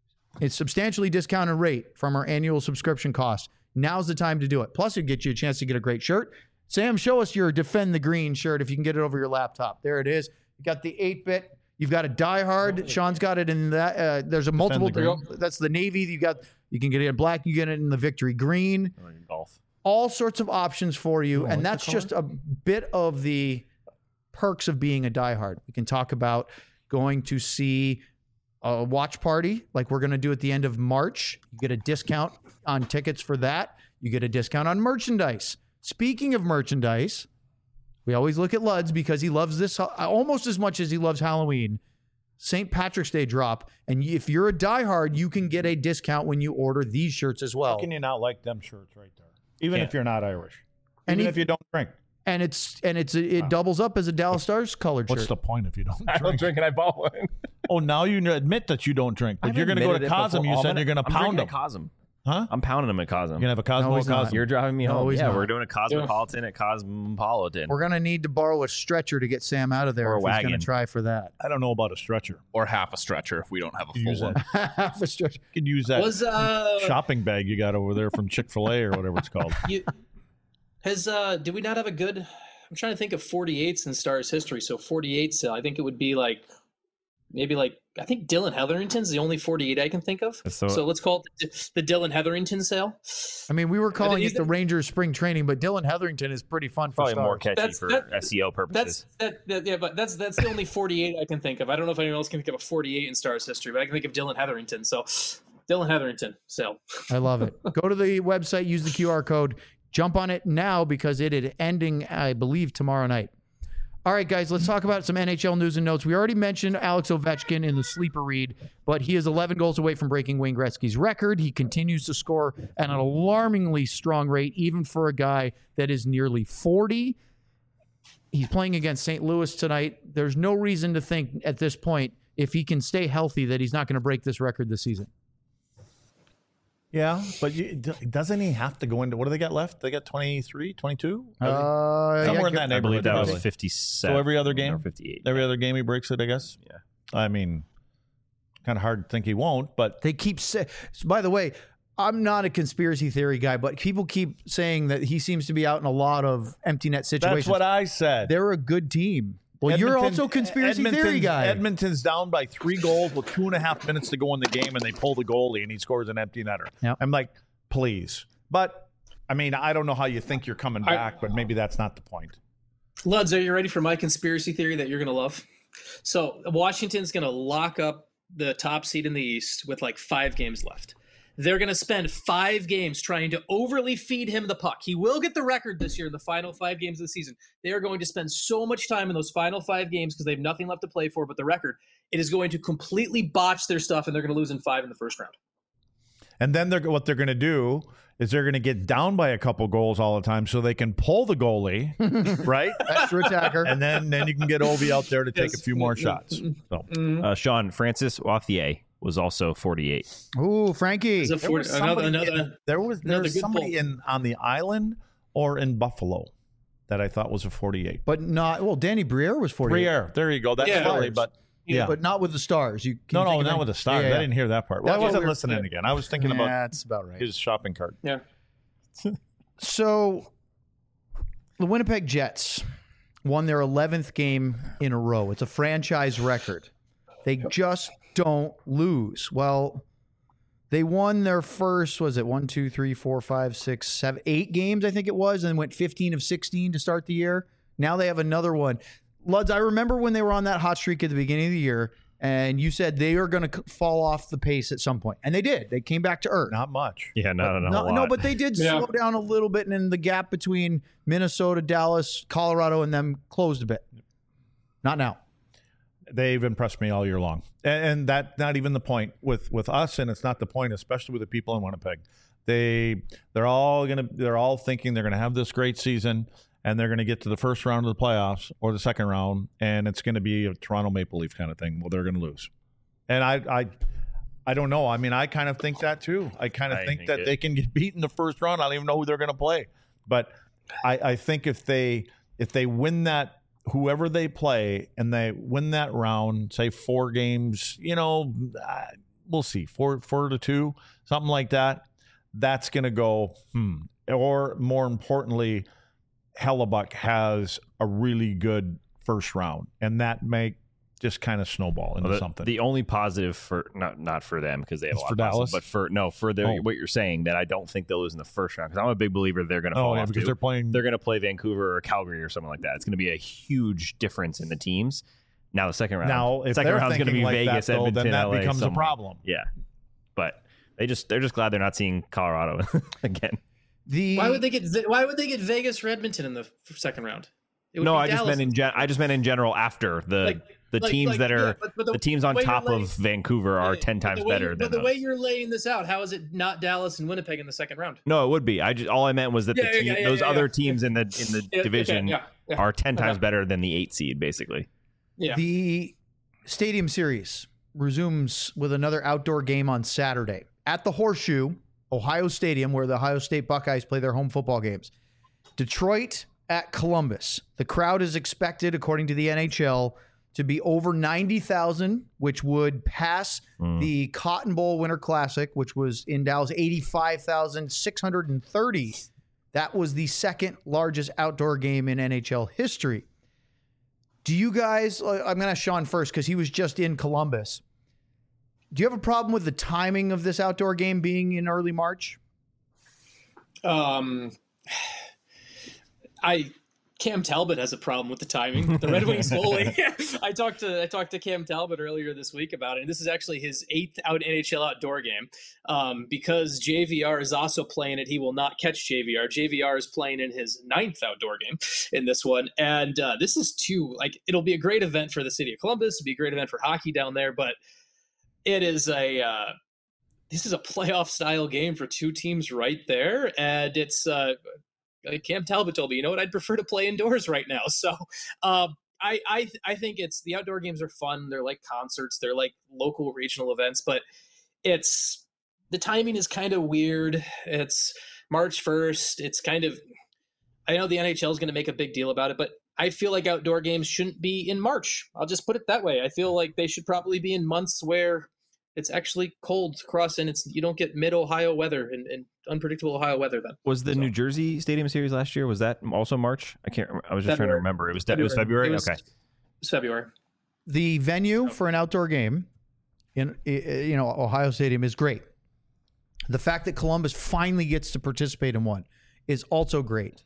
Speaker 4: a substantially discounted rate from our annual subscription cost, now's the time to do it. Plus, it gets you a chance to get a great shirt. Sam, show us your Defend the Green shirt if you can get it over your laptop. There it is. You got the eight-bit. You've got a Die Hard. Sean's got it in that. Uh, there's a multiple.
Speaker 3: the Green.
Speaker 4: That's the navy. You got. You can get it in black. You get it in the Victory Green.
Speaker 2: Golf.
Speaker 4: All sorts of options for you, and
Speaker 3: what's
Speaker 4: that's
Speaker 3: the
Speaker 4: just a bit of the perks of being a diehard. We can talk about going to see a watch party like we're going to do at the end of March. You get a discount on tickets for that. You get a discount on merchandise. Speaking of merchandise, we always look at Luds because he loves this almost as much as he loves Halloween. Saint Patrick's Day drop. And if you're a diehard, you can get a discount when you order these shirts as well.
Speaker 3: How can you not like them shirts right there? Even
Speaker 2: Can't.
Speaker 3: if you're not Irish.
Speaker 4: And
Speaker 3: Even
Speaker 4: if-
Speaker 3: if you don't drink.
Speaker 4: And it's and it's it doubles up as a Dallas Stars colored
Speaker 3: What's
Speaker 4: shirt.
Speaker 3: the point if you don't
Speaker 2: I don't
Speaker 3: drink?
Speaker 2: drink and I bought one.
Speaker 3: Oh, now you admit that you don't drink. But you're going to go to Cosm. You said you're going to pound them.
Speaker 2: Cosm.
Speaker 3: Huh?
Speaker 2: I'm pounding them at Cosm.
Speaker 3: You're going to have a Cosmo
Speaker 4: No, he's not.
Speaker 3: Cosm.
Speaker 2: You're driving me
Speaker 4: No,
Speaker 2: home.
Speaker 4: he's
Speaker 2: Yeah,
Speaker 4: not.
Speaker 2: we're doing a Cosmopolitan at Cosmopolitan.
Speaker 4: We're gonna need to borrow a stretcher to get Sam out of there
Speaker 2: Or a
Speaker 4: if he's gonna
Speaker 2: wagon.
Speaker 4: try for that.
Speaker 3: I don't know about a stretcher.
Speaker 1: Or half a stretcher if we don't have a
Speaker 3: You
Speaker 1: full
Speaker 3: use
Speaker 1: one.
Speaker 3: that.
Speaker 4: Half a stretcher.
Speaker 3: You could use that
Speaker 8: Was uh
Speaker 3: shopping bag you got over there from Chick-fil-A or whatever it's called.
Speaker 8: you has uh did we not have a good I'm trying to think of forty-eights in Stars history. So forty-eight sale. I think it would be like maybe like I think Dylan Hetherington's the only forty-eight I can think of.
Speaker 2: So-
Speaker 8: So, let's call it the, the Dylan Hetherington sale.
Speaker 4: I mean, we were calling
Speaker 8: is
Speaker 4: it the
Speaker 8: it-
Speaker 4: Rangers spring training, but Dylan Hetherington is pretty fun for
Speaker 2: Probably
Speaker 4: Stars.
Speaker 2: more catchy
Speaker 8: That's-
Speaker 2: for
Speaker 8: that-
Speaker 2: S E O
Speaker 8: That's
Speaker 2: purposes.
Speaker 8: that, that yeah, but that's that's the only forty-eight I can think of. I don't know if anyone else can think of a forty-eight in Stars history, but I can think of Dylan Hetherington. So Dylan Hetherington sale.
Speaker 4: I love it. Go to the website, use the Q R code, jump on it now because it is ending, I believe, tomorrow night. All right, guys, let's talk about some N H L news and notes. We already mentioned Alex Ovechkin in the sleeper read, but he is eleven goals away from breaking Wayne Gretzky's record. He continues to score at an alarmingly strong rate, even for a guy that is nearly forty. He's playing against Saint Louis tonight. There's no reason to think at this point, if he can stay healthy, that he's not going to break this record this season.
Speaker 3: Yeah, but you, doesn't he have to go into what do they got left? They got twenty-three, twenty-two?
Speaker 4: Uh,
Speaker 3: Somewhere
Speaker 4: yeah,
Speaker 3: in that
Speaker 2: I
Speaker 3: neighborhood.
Speaker 2: believe that was
Speaker 3: doesn't he?
Speaker 2: fifty-seven.
Speaker 3: So every other game?
Speaker 2: Or fifty-eight.
Speaker 3: Every other game he breaks it, I guess.
Speaker 2: Yeah.
Speaker 3: I mean, kind of hard to think he won't, but
Speaker 4: They keep saying. By the way, I'm not a conspiracy theory guy, but people keep saying that he seems to be out in a lot of empty net situations.
Speaker 3: that's what I said.
Speaker 4: They're a good team. Well, you're
Speaker 3: Edmonton-
Speaker 4: also a conspiracy theory
Speaker 3: Edmonton's-
Speaker 4: guy.
Speaker 3: Edmonton's down by three goals with two and a half minutes to go in the game, and they pull the goalie, and he scores an empty netter.
Speaker 4: Yep.
Speaker 3: I'm like, please. But, I mean, I don't know how you think you're coming
Speaker 8: I-
Speaker 3: back, but maybe that's not the point.
Speaker 8: Luds, are you ready for my conspiracy theory that you're going to love? So Washington's going to lock up the top seed in the East with like five games left. They're going to spend five games trying to overly feed him the puck. He will get the record this year in the final five games of the season. They are going to spend so much time in those final five games because they have nothing left to play for but the record. It is going to completely botch their stuff, and they're going to lose in five in the first round.
Speaker 3: And then they're, what they're going to do is they're going to get down by a couple goals all the time so they can pull the goalie, right?
Speaker 4: Extra attacker.
Speaker 3: And then, then you can get Ovi out there to take a few more shots. So.
Speaker 2: Uh, Sean, Francis Wathier was also forty-eight.
Speaker 4: Ooh, Frankie.
Speaker 8: It's a
Speaker 3: There
Speaker 8: four-
Speaker 3: was
Speaker 8: another,
Speaker 3: somebody,
Speaker 8: another,
Speaker 3: in, there was there
Speaker 8: another
Speaker 3: was
Speaker 8: good
Speaker 3: somebody
Speaker 8: pull.
Speaker 3: in on the island or in Buffalo that I thought was a forty-eight.
Speaker 4: But not well. Danny Briere was forty.
Speaker 3: Briere, there you go. That's
Speaker 8: Yeah.
Speaker 3: Philly, but yeah,
Speaker 4: but not with the Stars. You can
Speaker 3: no,
Speaker 4: you
Speaker 3: no,
Speaker 4: think of
Speaker 3: not
Speaker 4: any-
Speaker 3: with the Stars.
Speaker 4: Yeah, yeah.
Speaker 3: I didn't hear that part. Well,
Speaker 4: That's
Speaker 3: I
Speaker 4: what
Speaker 3: wasn't
Speaker 4: we were-
Speaker 3: listening again. I was thinking
Speaker 4: Yeah,
Speaker 3: about
Speaker 4: that's about right.
Speaker 3: his shopping cart.
Speaker 8: Yeah.
Speaker 4: So, the Winnipeg Jets won their eleventh game in a row. It's a franchise record. They just don't lose. Well, they won their first, was it one, two, three, four, five, six, seven, eight games, I think it was, and went fifteen of sixteen to start the year. Now they have another one. Luds, I remember when they were on that hot streak at the beginning of the year, and you said they are going to fall off the pace at some point. And they did. They came back to earth.
Speaker 3: Not much.
Speaker 2: Yeah, not, not a
Speaker 4: No,
Speaker 2: lot.
Speaker 4: no, but they did
Speaker 8: Yeah.
Speaker 4: slow down a little bit, and then the gap between Minnesota, Dallas, Colorado, and them closed a bit. Not now.
Speaker 3: They've impressed me all year long, and, and that not even the point with with us, and it's not the point, especially with the people in Winnipeg. They they're all gonna they're all thinking they're gonna have this great season, and they're gonna get to the first round of the playoffs or the second round, and it's gonna be a Toronto Maple Leaf kind of thing. Well, they're gonna lose, and I I. I don't know. I mean, I kind of think that too. I kind of
Speaker 2: I
Speaker 3: think,
Speaker 2: think
Speaker 3: that
Speaker 2: it-
Speaker 3: they can get beat in the first round. I don't even know who they're going to play, but I, I think if they if they win that, whoever they play, and they win that round, say four games, you know, uh, we'll see, four four to two, something like that. That's going to go. Hmm. Or more importantly, Hellebuck has a really good first round, and that may just kind of snowball into
Speaker 2: Well, the,
Speaker 3: something.
Speaker 2: the only positive for not not for them because they have
Speaker 3: It's
Speaker 2: a lot
Speaker 3: for
Speaker 2: of positive,
Speaker 3: Dallas?
Speaker 2: but for no for the,
Speaker 3: Oh.
Speaker 2: what you're saying that I don't think they'll lose in the first round because I'm a big believer they're going to fall
Speaker 3: oh, yeah,
Speaker 2: off
Speaker 3: because
Speaker 2: too.
Speaker 3: they're playing.
Speaker 2: They're going to play Vancouver or Calgary or something like that. It's going to be a huge difference in the teams. Now the second round,
Speaker 3: Now, if
Speaker 2: second
Speaker 3: they're
Speaker 2: round's going to
Speaker 3: thinking
Speaker 2: be
Speaker 3: like
Speaker 2: Vegas,
Speaker 3: that, though,
Speaker 2: Edmonton,
Speaker 3: then that
Speaker 2: L A,
Speaker 3: becomes a
Speaker 2: somewhere.
Speaker 3: problem.
Speaker 2: Yeah, but they just they're just glad they're not seeing Colorado again.
Speaker 4: The
Speaker 8: Why would they get Ve- Why would they get Vegas or Edmonton in the f- second round? It would
Speaker 2: No,
Speaker 8: be
Speaker 2: I just
Speaker 8: Dallas.
Speaker 2: meant in gen- I just meant in general after the
Speaker 8: Like-
Speaker 2: the
Speaker 8: like-
Speaker 2: teams
Speaker 8: like,
Speaker 2: that are
Speaker 8: yeah, but- but
Speaker 2: the,
Speaker 8: the
Speaker 2: teams on
Speaker 8: way you're
Speaker 2: top
Speaker 8: laying-
Speaker 2: of Vancouver are
Speaker 8: Yeah,
Speaker 2: ten
Speaker 8: but
Speaker 2: times
Speaker 8: the way
Speaker 2: better
Speaker 8: you-
Speaker 2: than
Speaker 8: But the
Speaker 2: those.
Speaker 8: way you're laying this out, how is it not Dallas and Winnipeg in the second round?
Speaker 2: No, it would be. I just all I meant was that
Speaker 8: Yeah,
Speaker 2: the
Speaker 8: yeah,
Speaker 2: team,
Speaker 8: yeah, yeah,
Speaker 2: those
Speaker 8: yeah,
Speaker 2: other
Speaker 8: yeah.
Speaker 2: teams in the in the
Speaker 8: Yeah, okay,
Speaker 2: division
Speaker 8: yeah, yeah.
Speaker 2: are ten times
Speaker 8: Okay.
Speaker 2: better than the eight seed, basically.
Speaker 8: Yeah.
Speaker 4: The Stadium Series resumes with another outdoor game on Saturday at the Horseshoe, Ohio Stadium, where the Ohio State Buckeyes play their home football games. Detroit at Columbus. The crowd is expected, according to the N H L, to be over ninety thousand, which would pass
Speaker 2: Mm.
Speaker 4: the Cotton Bowl Winter Classic, which was in Dallas, eighty-five thousand six hundred thirty. That was the second largest outdoor game in N H L history. Do you guys, I'm going to ask Sean first because he was just in Columbus. Do you have a problem with the timing of this outdoor game being in early March?
Speaker 8: Um, I Cam Talbot has a problem with the timing. The Red Wings goalie. I talked to I talked to Cam Talbot earlier this week about it. And this is actually his eighth out N H L outdoor game. Um, because J V R is also playing it, he will not catch J V R. J V R is playing in his ninth outdoor game in this one, and uh, this is two. Like, it'll be a great event for the city of Columbus. It'll be a great event for hockey down there, but it is a. Uh, This is a playoff style game for two teams right there, and it's uh, like Cam Talbot told me, you know what, I'd prefer to play indoors right now. So um, I I I think it's the outdoor games are fun. They're like concerts. They're like local regional events, but it's the timing is kind of weird. It's March first. It's kind of, I know the N H L is going to make a big deal about it, but I feel like outdoor games shouldn't be in March. I'll just put it that way. I feel like they should probably be in months where it's actually cold across and it's you don't get mid Ohio weather and, and unpredictable Ohio weather then.
Speaker 2: Was the
Speaker 8: So-
Speaker 2: New Jersey Stadium Series last year? Was that also March? I can't. Remember. I was just trying to
Speaker 8: February.
Speaker 2: remember. It was. De- It was February.
Speaker 8: It was-
Speaker 2: Okay.
Speaker 8: It's February.
Speaker 4: The venue for an outdoor game in i- i- you know Ohio Stadium is great. The fact that Columbus finally gets to participate in one is also great.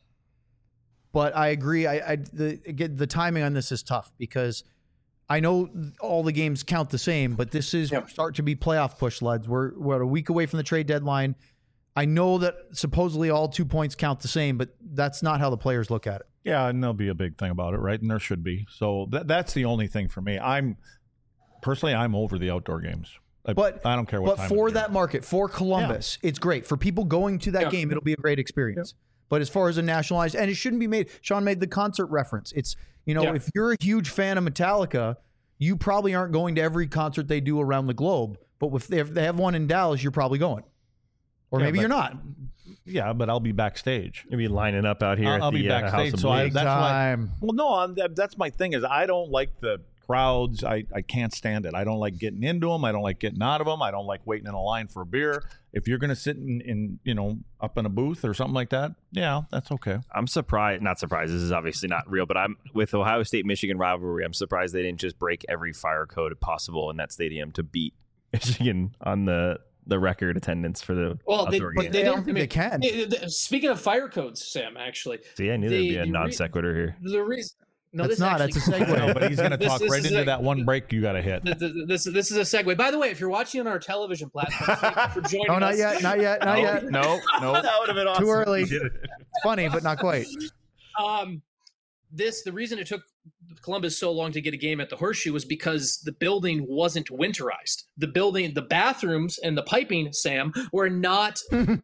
Speaker 4: But I agree. I, I the again, the timing on this is tough because I know all the games count the same, but this is
Speaker 8: Yep.
Speaker 4: start to be playoff push, lads. We're we're a week away from the trade deadline. I know that supposedly all two points count the same, but that's not how the players look at it.
Speaker 3: Yeah, and there'll be a big thing about it, right? And there should be. So that that's the only thing for me. I'm personally, I'm over the outdoor games. I,
Speaker 4: But
Speaker 3: I don't care what.
Speaker 4: But
Speaker 3: time
Speaker 4: for
Speaker 3: of year.
Speaker 4: that market, for Columbus, it's great. For people going to that
Speaker 8: Yeah.
Speaker 4: game, it'll be a great experience. But as far as a nationalized, and it shouldn't be made. Sean made the concert reference. It's you know,
Speaker 8: Yeah.
Speaker 4: if you're a huge fan of Metallica, you probably aren't going to every concert they do around the globe. But if they have, they have one in Dallas, you're probably going, or
Speaker 3: Yeah,
Speaker 4: maybe
Speaker 3: but-
Speaker 4: you're not.
Speaker 3: yeah, but I'll be backstage.
Speaker 2: You'll be lining up out here.
Speaker 3: I'll,
Speaker 2: at
Speaker 3: I'll
Speaker 2: the,
Speaker 3: be
Speaker 2: uh,
Speaker 3: backstage.
Speaker 2: House of
Speaker 3: so I,
Speaker 2: Blues.
Speaker 3: that's
Speaker 4: time.
Speaker 3: why. Well, no, I'm, that, that's my thing. Is I don't like the crowds. I, I can't stand it. I don't like getting into them. I don't like getting out of them. I don't like waiting in a line for a beer. If you're going to sit in, in, you know, up in a booth or something like that, yeah, that's okay.
Speaker 2: I'm surprised. Not surprised. This is obviously not real, but I'm with Ohio State Michigan rivalry. I'm surprised they didn't just break every fire code possible in that stadium to beat Michigan on the the record attendance for the
Speaker 8: Well, they,
Speaker 2: outdoor
Speaker 8: but
Speaker 2: game.
Speaker 8: they
Speaker 4: I don't
Speaker 8: didn't.
Speaker 4: think
Speaker 8: I mean,
Speaker 4: they can.
Speaker 8: eh, eh, Speaking of fire codes, Sam, actually,
Speaker 2: See, I knew there'd
Speaker 8: the-
Speaker 2: be a
Speaker 8: the re-
Speaker 2: non sequitur here.
Speaker 8: the reason. No,
Speaker 4: That's
Speaker 8: this
Speaker 4: not.
Speaker 8: actually,
Speaker 4: That's a segue.
Speaker 3: No, but he's going to
Speaker 8: This-
Speaker 3: talk
Speaker 8: this
Speaker 3: right
Speaker 8: is
Speaker 3: into
Speaker 8: a-
Speaker 3: that one break you got to hit.
Speaker 8: Th- th- This this is a segue. By the way, if you're watching on our television platform, thank you for joining
Speaker 4: No, not
Speaker 8: us.
Speaker 4: yet. Not yet. Not yet.
Speaker 1: No, no.
Speaker 2: That would have been awesome.
Speaker 4: Too early.
Speaker 2: if you did it.
Speaker 4: It's funny, but not quite.
Speaker 8: Um, this the reason it took Columbus so long to get a game at the Horseshoe was because the building wasn't winterized. The building, the bathrooms, and the piping, Sam, were not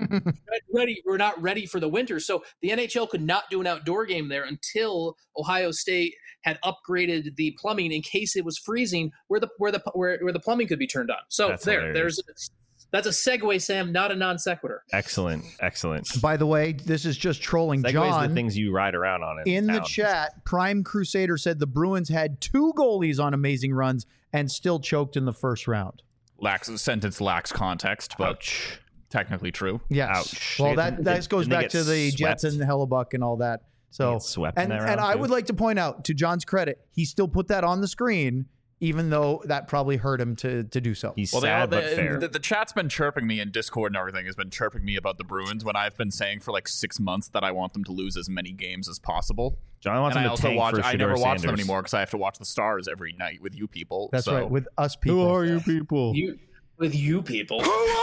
Speaker 8: ready. Were not ready for the winter. So the N H L could not do an outdoor game there until Ohio State had upgraded the plumbing in case it was freezing, where the where the where, where the plumbing could be turned on. So
Speaker 2: That's
Speaker 8: there,
Speaker 2: hilarious.
Speaker 8: there's that's a segue, Sam, not a non sequitur.
Speaker 2: Excellent, excellent.
Speaker 4: By the way, this is just trolling
Speaker 2: Segways
Speaker 4: John.
Speaker 2: the things you ride around on
Speaker 4: In the
Speaker 2: town.
Speaker 4: chat, Prime Crusader said the Bruins had two goalies on amazing runs and still choked in the first round.
Speaker 1: Lacks sentence lacks context, but
Speaker 2: Ouch.
Speaker 1: technically true.
Speaker 4: Yes.
Speaker 2: Ouch.
Speaker 4: Well,
Speaker 2: They-
Speaker 4: that
Speaker 2: didn't-
Speaker 4: that goes
Speaker 2: didn't they
Speaker 4: back
Speaker 2: get
Speaker 4: to the Jets
Speaker 2: swept?
Speaker 4: and Hellebuck and all that. So,
Speaker 2: get swept in
Speaker 4: and,
Speaker 2: that
Speaker 4: and
Speaker 2: round,
Speaker 4: I
Speaker 2: too?
Speaker 4: would like to point out, to John's credit, he still put that on the screen, even though that probably hurt him to to do so.
Speaker 2: He's
Speaker 1: Well, they
Speaker 2: sad
Speaker 1: all,
Speaker 2: but
Speaker 1: the,
Speaker 2: fair.
Speaker 1: the, the chat's been chirping me, and Discord and everything has been chirping me about the Bruins when I've been saying for like six months that I want them to lose as many games as possible.
Speaker 2: John wants
Speaker 1: And I
Speaker 2: him to
Speaker 1: also
Speaker 2: tank
Speaker 1: watch.
Speaker 2: for
Speaker 1: I never
Speaker 2: Shedeur
Speaker 1: watch them
Speaker 2: Sanders.
Speaker 1: anymore because I have to watch the Stars every night with you people.
Speaker 4: That's
Speaker 1: so.
Speaker 4: right, with us people.
Speaker 2: you people?
Speaker 8: You with you people.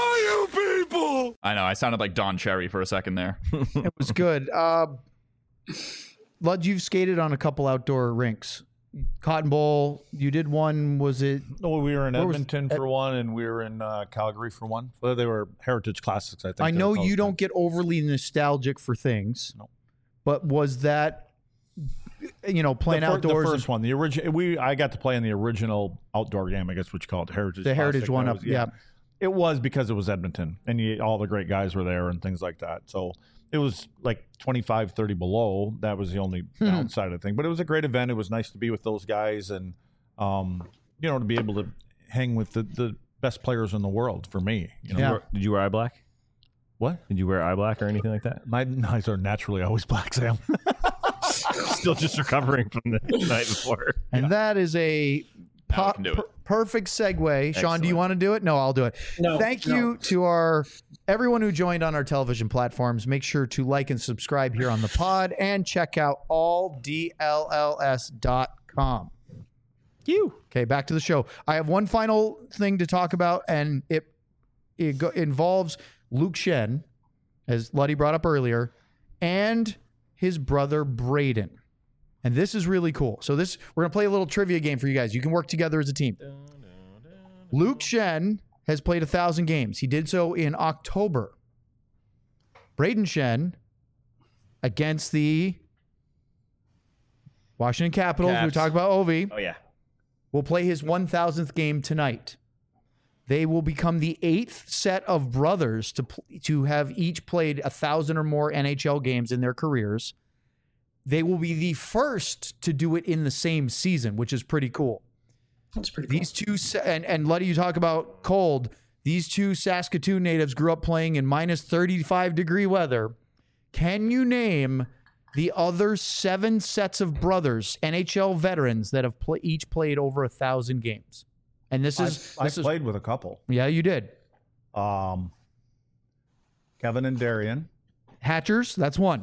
Speaker 1: I know I sounded like Don Cherry for a second there.
Speaker 4: It was good. Uh, Lud, you've skated on a couple outdoor rinks. Cotton Bowl, you did one. Was it?
Speaker 3: No, we were in
Speaker 4: Where was-
Speaker 3: Edmonton for one, and we were in uh, Calgary for one. Well, they were Heritage Classics, I think.
Speaker 4: I
Speaker 3: they're
Speaker 4: know
Speaker 3: called.
Speaker 4: you don't get overly nostalgic for things,
Speaker 3: No.
Speaker 4: but was that, you know, playing
Speaker 3: the, fir-
Speaker 4: outdoors?
Speaker 3: The
Speaker 4: and-
Speaker 3: first one, the original. We I got to play in the original outdoor game. I guess what you call it, Heritage.
Speaker 4: The Heritage
Speaker 3: Classic.
Speaker 4: one
Speaker 3: That
Speaker 4: up,
Speaker 3: was-
Speaker 4: yeah.
Speaker 3: It was because it was Edmonton, and you, all the great guys were there and things like that. So it was like twenty-five, thirty below. That was the only
Speaker 4: Hmm.
Speaker 3: downside of the thing. But it was a great event. It was nice to be with those guys, and um, you know, to be able to hang with the, the best players in the world for me. You know,
Speaker 4: Yeah.
Speaker 2: Were- Did you wear eye black?
Speaker 3: what?
Speaker 2: Did you wear eye black or anything like that?
Speaker 3: My eyes are naturally always black, Sam.
Speaker 2: Still just recovering from the night before.
Speaker 4: And that is a
Speaker 1: Now I
Speaker 4: po-
Speaker 1: can do it.
Speaker 4: per- perfect segue. Sean, do you
Speaker 2: Excellent.
Speaker 4: want to do it? No, I'll do it.
Speaker 8: No,
Speaker 4: Thank
Speaker 8: no.
Speaker 4: you to our everyone who joined on our television platforms. Make sure to like and subscribe here on the pod and check out all D L L S dot com. You. Okay, back to the show. I have one final thing to talk about, and it it go, involves Luke Shen, as Luddy brought up earlier, and his brother Braden. And this is really cool. So this we're gonna play a little trivia game for you guys. You can work together as a team. Luke Shen has played a thousand games. He did so in October. Braden Shen against the Washington Capitals. We
Speaker 1: Caps.
Speaker 4: talked about Ovi.
Speaker 2: Oh yeah.
Speaker 4: Will play his one thousandth game tonight. They will become the eighth set of brothers to pl- to have each played a thousand or more N H L games in their careers. They will be the first to do it in the same season, which is pretty cool.
Speaker 8: That's pretty cool.
Speaker 4: These two, sa- and, and Letty, you talk about cold. These two Saskatoon natives grew up playing in minus thirty-five degree weather. Can you name the other seven sets of brothers, N H L veterans, that have pl- each played over a thousand games? And this is
Speaker 3: I, I
Speaker 4: this is
Speaker 3: played with a couple.
Speaker 4: yeah, you did.
Speaker 3: Um, Kevin and Darian.
Speaker 4: Hatchers, that's one.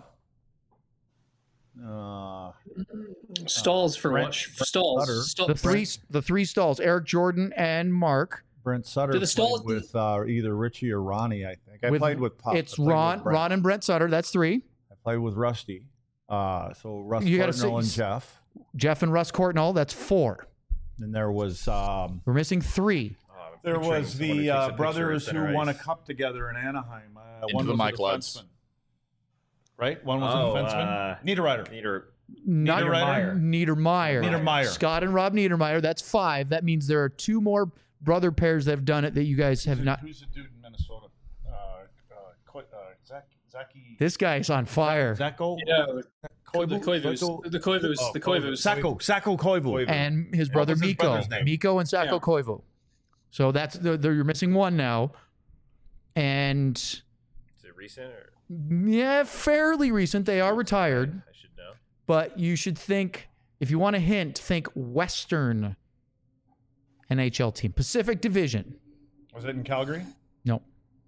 Speaker 3: Uh,
Speaker 8: Stalls for
Speaker 3: Brent-
Speaker 8: what?
Speaker 3: Brent
Speaker 8: Stalls.
Speaker 3: Sutter.
Speaker 8: Stall-
Speaker 4: The three the three stalls, Eric Jordan and Mark.
Speaker 3: Brent Sutter
Speaker 8: Do the
Speaker 3: played
Speaker 8: Stalls-
Speaker 3: with uh, either Richie or Ronnie, I think. I
Speaker 4: With-
Speaker 3: played with Pop.
Speaker 4: It's
Speaker 3: I played with
Speaker 4: Ron,
Speaker 3: Brent.
Speaker 4: Ron and Brent Sutter. That's three.
Speaker 3: I played with Rusty. Uh, so Russ
Speaker 4: You gotta
Speaker 3: Cardinal
Speaker 4: say-
Speaker 3: and Jeff.
Speaker 4: Jeff and Russ Courtnall. That's four.
Speaker 3: And there was um,
Speaker 4: We're missing three.
Speaker 3: there was the uh, brothers who won a cup together in Anaheim. Uh,
Speaker 1: Into
Speaker 3: one
Speaker 1: the
Speaker 3: was
Speaker 1: Mike
Speaker 3: a
Speaker 1: Ludds.
Speaker 3: defenseman. Right? One was
Speaker 2: Oh,
Speaker 3: a defenseman.
Speaker 2: uh,
Speaker 3: Niederreiter.
Speaker 2: Neater.
Speaker 4: Not
Speaker 3: Niederreiter?
Speaker 4: Niedermeyer.
Speaker 3: Niedermeyer.
Speaker 4: Scott and Rob Niedermeyer. That's five. That means there are two more brother pairs that have done it that you guys have not.
Speaker 3: Who's the dude in Minnesota? Uh, uh, Ko- uh, Zach, Zachy.
Speaker 4: This guy's on fire.
Speaker 3: Zacko?
Speaker 8: Yeah, the
Speaker 3: Koivu?
Speaker 8: Koivus.
Speaker 3: Zacko?
Speaker 8: The Koivus.
Speaker 3: Oh,
Speaker 8: The Koivus.
Speaker 3: Sacco. Sacco Koivu.
Speaker 4: And his
Speaker 3: What
Speaker 4: brother
Speaker 3: was his
Speaker 4: Miko.
Speaker 3: brother's name?
Speaker 4: Miko and Sako
Speaker 8: Yeah.
Speaker 4: Koivu. So that's the, the, you're missing one now. And
Speaker 2: Is it recent or
Speaker 4: yeah, fairly recent. They are retired.
Speaker 2: I should know?
Speaker 4: But you should think, if you want a hint, think Western N H L team. Pacific Division.
Speaker 3: Was it in Calgary?
Speaker 4: No.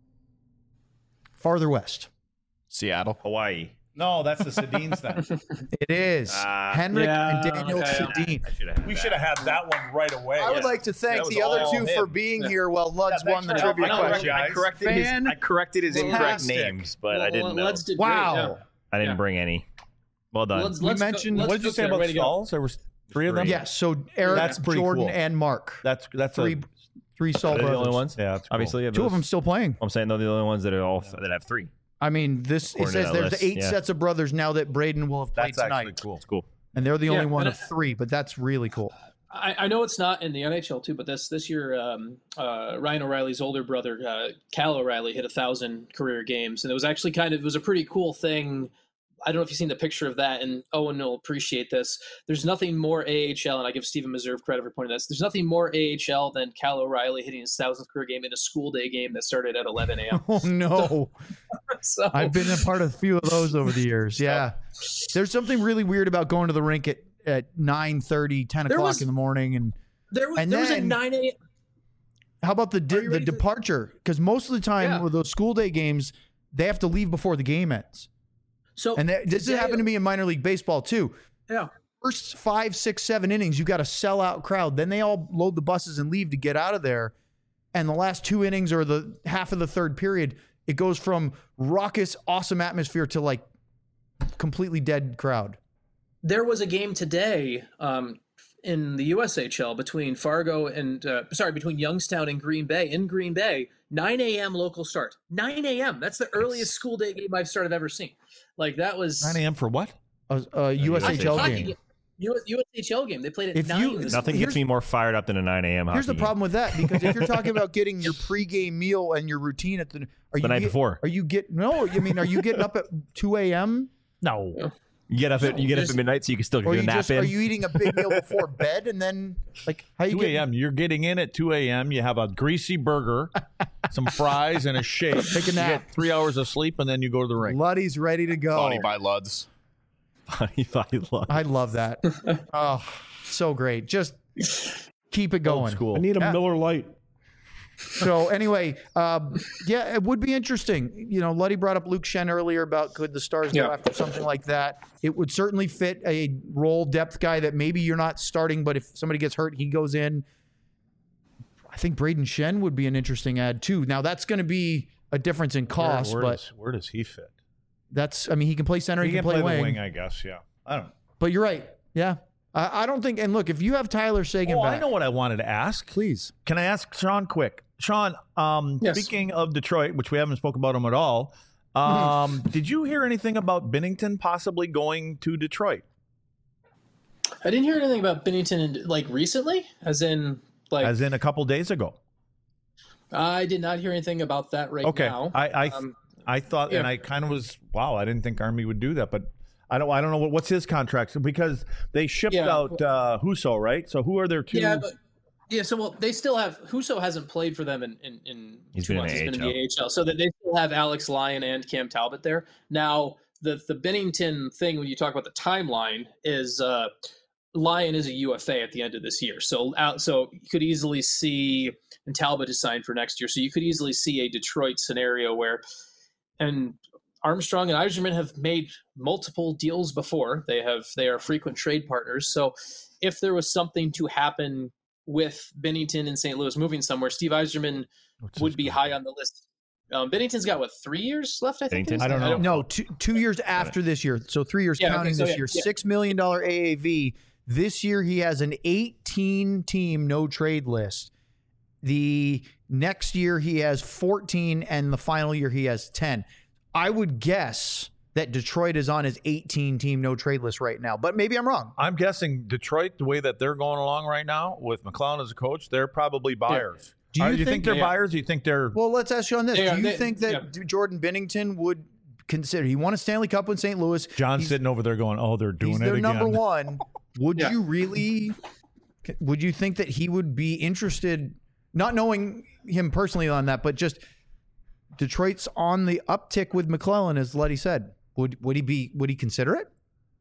Speaker 4: Farther west.
Speaker 1: Seattle.
Speaker 2: Hawaii.
Speaker 3: No, that's the Sedins then.
Speaker 4: It is.
Speaker 2: Ah.
Speaker 4: Henrik
Speaker 8: Yeah,
Speaker 4: and Daniel
Speaker 8: okay.
Speaker 4: Sedin.
Speaker 2: I should have.
Speaker 3: We should have had that one right away.
Speaker 4: I would like to thank
Speaker 3: That was
Speaker 4: the other
Speaker 3: all
Speaker 4: two for
Speaker 3: him.
Speaker 4: being here while Luds
Speaker 3: Yeah,
Speaker 4: won the
Speaker 3: thanks for
Speaker 4: trivia
Speaker 3: helping.
Speaker 4: question.
Speaker 3: I
Speaker 2: corrected his, I corrected his incorrect
Speaker 4: Fantastic.
Speaker 2: names, but I
Speaker 8: Well,
Speaker 2: didn't know.
Speaker 8: Luds did
Speaker 4: Wow.
Speaker 8: great, yeah.
Speaker 2: I didn't
Speaker 8: Yeah.
Speaker 2: bring any. Well done.
Speaker 8: Let's,
Speaker 4: We
Speaker 8: let's
Speaker 4: mentioned-
Speaker 8: Go, let's
Speaker 3: What did you
Speaker 8: go
Speaker 3: say
Speaker 8: there.
Speaker 3: about
Speaker 8: Way to go.
Speaker 3: stalls? There was three of them.
Speaker 2: Three.
Speaker 4: Yes. So Eric,
Speaker 3: That's pretty
Speaker 4: Jordan,
Speaker 3: cool.
Speaker 4: and Mark.
Speaker 3: That's that's
Speaker 4: Three,
Speaker 3: a
Speaker 4: three Stall
Speaker 2: Are they the
Speaker 4: brothers.
Speaker 2: only ones?
Speaker 3: yeah. That's cool.
Speaker 2: Obviously,
Speaker 4: Two of them still playing.
Speaker 2: I'm saying they're the only ones that are all that have three.
Speaker 4: I mean, this it
Speaker 2: According to
Speaker 4: says
Speaker 2: that
Speaker 4: there's
Speaker 2: list,
Speaker 4: eight
Speaker 2: yeah.
Speaker 4: sets of brothers now that Braden will have played
Speaker 3: That's actually
Speaker 4: tonight,
Speaker 3: cool.
Speaker 2: It's cool.
Speaker 4: and they're the only
Speaker 8: Yeah,
Speaker 4: one
Speaker 8: and
Speaker 4: of three. But that's really cool.
Speaker 8: I, I know it's not in the N H L too, but this this year, um, uh, Ryan O'Reilly's older brother, uh, Cal O'Reilly, hit a thousand career games, and it was actually kind of it was a pretty cool thing. I don't know if you've seen the picture of that, and Owen will appreciate this. There's nothing more A H L, and I give Stephen Meserve credit for pointing this. There's nothing more A H L than Cal O'Reilly hitting his thousandth career game in a school day game that started at eleven a.m.
Speaker 4: Oh no!
Speaker 8: so
Speaker 4: I've been a part of a few of those over the years. Yeah, there's something really weird about going to the rink at at nine thirty, ten
Speaker 8: There
Speaker 4: o'clock
Speaker 8: was-
Speaker 4: in the morning, and
Speaker 8: there was
Speaker 4: And
Speaker 8: there was a
Speaker 4: then-
Speaker 8: nine a.m.
Speaker 4: how about the
Speaker 8: Are
Speaker 4: di-
Speaker 8: you
Speaker 4: the
Speaker 8: ready for-
Speaker 4: departure? Because most of the time
Speaker 8: Yeah.
Speaker 4: with those school day games, they have to leave before the game ends.
Speaker 8: So
Speaker 4: And that, this has
Speaker 8: today-
Speaker 4: happened to me in minor league baseball too.
Speaker 8: Yeah.
Speaker 4: First five, six, seven innings, you got a sellout crowd. Then they all load the buses and leave to get out of there. And the last two innings or the half of the third period, it goes from raucous, awesome atmosphere to like completely dead crowd.
Speaker 8: There was a game today um, in the U S H L between Fargo and uh, sorry between Youngstown and Green Bay in Green Bay. nine a.m. local start. nine a.m. That's the earliest school day game I've started ever seen. Like that was
Speaker 3: nine a.m. for what?
Speaker 4: A, a U S H L
Speaker 8: hockey
Speaker 4: game.
Speaker 8: U S H L game. They played at
Speaker 4: If
Speaker 8: nine.
Speaker 4: you-
Speaker 8: this
Speaker 2: Nothing
Speaker 4: Here's-
Speaker 2: gets me more fired up than a nine a.m.
Speaker 4: Here's the
Speaker 2: hockey
Speaker 4: problem with that, because if you're talking about getting your pregame meal and your routine at the, are you
Speaker 2: The night
Speaker 4: get-
Speaker 2: before.
Speaker 4: Are you get no? I mean, are you getting up at two a.m.
Speaker 3: No.
Speaker 2: game. You get up at you get up
Speaker 8: Just-
Speaker 2: at midnight so you can still
Speaker 4: or
Speaker 2: get a
Speaker 4: you
Speaker 2: nap
Speaker 4: just
Speaker 2: in.
Speaker 4: are you eating a big meal before bed and then like how you
Speaker 3: two
Speaker 4: get
Speaker 3: a.m. You're getting in at two a.m. You have a greasy burger, some fries, and a shake.
Speaker 4: Take a nap.
Speaker 3: You get three hours of sleep, and then you go to the rink.
Speaker 4: Luddy's ready to go.
Speaker 1: Body by Luds.
Speaker 2: Funny, funny luck.
Speaker 4: I love that. Oh, so great. Just keep it
Speaker 3: Old
Speaker 4: going.
Speaker 3: school.
Speaker 9: I need a
Speaker 4: Yeah.
Speaker 9: Miller Lite.
Speaker 4: So anyway, um, yeah, it would be interesting. You know, Luddy brought up Luke Shen earlier about could the Stars go
Speaker 8: Yeah.
Speaker 4: after something like that. It would certainly fit a role depth guy that maybe you're not starting, but if somebody gets hurt, he goes in. I think Braden Shen would be an interesting ad too. Now that's going to be a difference in cost,
Speaker 3: where, where
Speaker 4: but
Speaker 3: does, where does he fit?
Speaker 4: that's, I mean, he can play center, he,
Speaker 3: He
Speaker 4: can,
Speaker 3: can
Speaker 4: play,
Speaker 3: play
Speaker 4: wing,
Speaker 3: the wing, I guess. Yeah. I don't know.
Speaker 4: But you're right. Yeah. I, I don't think, and look, if you have Tyler Sagan
Speaker 3: Oh,
Speaker 4: back,
Speaker 3: I know what I wanted to ask.
Speaker 4: please.
Speaker 3: Can I ask Sean quick? Sean, um,
Speaker 8: Yes.
Speaker 3: speaking of Detroit, which we haven't spoken about him at all, um, did you hear anything about Binnington possibly going to Detroit?
Speaker 8: I didn't hear anything about Bennington like recently, as in like
Speaker 3: As in a couple days ago.
Speaker 8: I did not hear anything about that right
Speaker 3: Okay,
Speaker 8: now.
Speaker 3: I I,
Speaker 8: Um,
Speaker 3: I thought,
Speaker 8: yeah.
Speaker 3: and I kind of was wow. I didn't think Army would do that, but I don't I don't know what, what's his contract because they shipped
Speaker 8: Yeah.
Speaker 3: out uh, Husso, right? So who are their two?
Speaker 8: Yeah, but yeah, so well, they still have Husso hasn't played for them in in, in
Speaker 2: He's
Speaker 8: two
Speaker 2: been in
Speaker 8: months.
Speaker 2: the
Speaker 8: He's been in
Speaker 2: A H L.
Speaker 8: the A H L, so that they still have Alex Lyon and Cam Talbot there. Now, the the Bennington thing when you talk about the timeline is uh, Lyon is a U F A at the end of this year, so out so you could easily see, and Talbot is signed for next year, so you could easily see a Detroit scenario where, and Armstrong and Yzerman have made multiple deals before. They have they are frequent trade partners. So if there was something to happen with Bennington and Saint Louis moving somewhere, Steve Yzerman
Speaker 3: What's
Speaker 8: would
Speaker 3: his
Speaker 8: be
Speaker 3: contract?
Speaker 8: high on the list. Um, Bennington's got what three years left? I think. it is?
Speaker 2: Bennington?
Speaker 3: I don't know.
Speaker 4: No, two, two years after this year. So three years
Speaker 8: Yeah, okay,
Speaker 4: counting
Speaker 8: so
Speaker 4: this
Speaker 8: yeah,
Speaker 4: year.
Speaker 8: yeah.
Speaker 4: Six million dollar A A V. This year he has an eighteen team no trade list. The next year he has fourteen, and the final year he has ten. I would guess that Detroit is on his eighteen team no trade list right now, but maybe I'm wrong.
Speaker 3: I'm guessing Detroit, the way that they're going along right now with McLellan as a coach, they're probably buyers.
Speaker 4: Do you
Speaker 3: Uh,
Speaker 4: think-
Speaker 3: they're
Speaker 8: Yeah.
Speaker 3: buyers? Do you think they're
Speaker 4: Well, let's ask you on this.
Speaker 8: They
Speaker 4: Do
Speaker 8: are-
Speaker 4: you
Speaker 8: they-
Speaker 4: think that Jordan Bennington would consider? He won a Stanley Cup with Saint Louis.
Speaker 3: John's
Speaker 4: He's-
Speaker 3: sitting over there going, "Oh, they're doing
Speaker 4: He's
Speaker 3: it
Speaker 4: their
Speaker 3: again."
Speaker 4: number one. Would
Speaker 8: Yeah.
Speaker 4: you really? Would you think that he would be interested? Not knowing him personally on that, but just Detroit's on the uptick with McLellan, as Letty said. Would would he be? Would he consider it?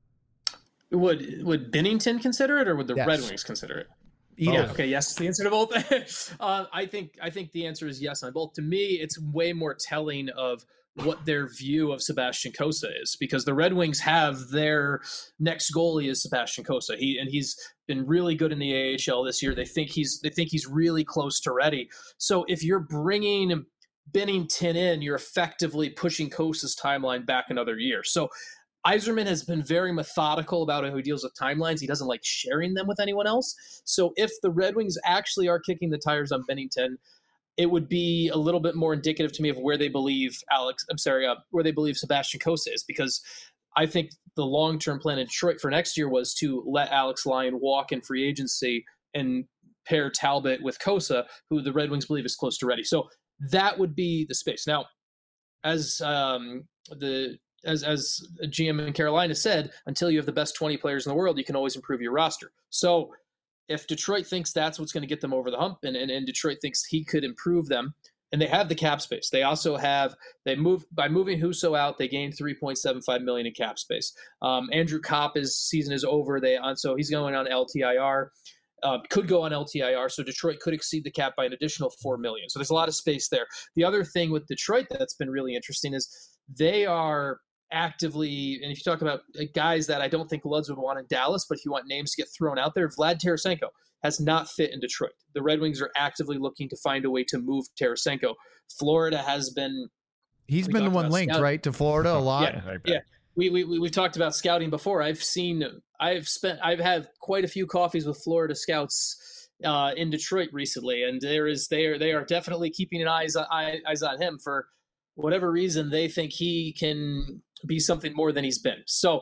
Speaker 8: Would would Bennington consider it, or would the
Speaker 4: Yes.
Speaker 8: Red Wings consider it?
Speaker 4: Either.
Speaker 8: Yeah. Okay. Yes. The answer to both. uh, I think. I think the answer is yes on both. To me, it's way more telling of what their view of Sebastian Cossa is, because the Red Wings have their next goalie is Sebastian Cossa. He and he's been really good in the A H L this year. They think he's they think he's really close to ready. So if you're bringing Bennington in, you're effectively pushing Cossa's timeline back another year. So Yzerman has been very methodical about how he deals with timelines. He doesn't like sharing them with anyone else. So if the Red Wings actually are kicking the tires on Bennington, it would be a little bit more indicative to me of where they believe Alex, I'm sorry, uh, where they believe Sebastian Cossa is, because I think the long-term plan in Detroit for next year was to let Alex Lyon walk in free agency and pair Talbot with Cossa, who the Red Wings believe is close to ready. So that would be the space. Now, as um, the as as a G M in Carolina said, until you have the best twenty players in the world, you can always improve your roster. So if Detroit thinks that's what's going to get them over the hump, and, and, and Detroit thinks he could improve them, and they have the cap space. They also have they moved by moving Husso out. They gained three point seven five million in cap space. Um, Andrew Kopp's season is over. They on so he's going on L T I R. Uh, could go on L T I R, so Detroit could exceed the cap by an additional four million. So there's a lot of space there. The other thing with Detroit that's been really interesting is they are actively, and if you talk about guys that I don't think Luds would want in Dallas, but if you want names to get thrown out there, Vlad Tarasenko has not fit in Detroit. The Red Wings are actively looking to find a way to move Tarasenko. Florida has been.
Speaker 4: He's
Speaker 8: we
Speaker 4: been the
Speaker 8: talked
Speaker 4: one
Speaker 8: about
Speaker 4: linked,
Speaker 8: scouting.
Speaker 4: right, to Florida a lot.
Speaker 8: Yeah, yeah. We, we we we've talked about scouting before. I've seen, I've spent, I've had quite a few coffees with Florida scouts uh, in Detroit recently, and there is they are they are definitely keeping an eyes eye- eyes on him for whatever reason. They think he can be something more than he's been. So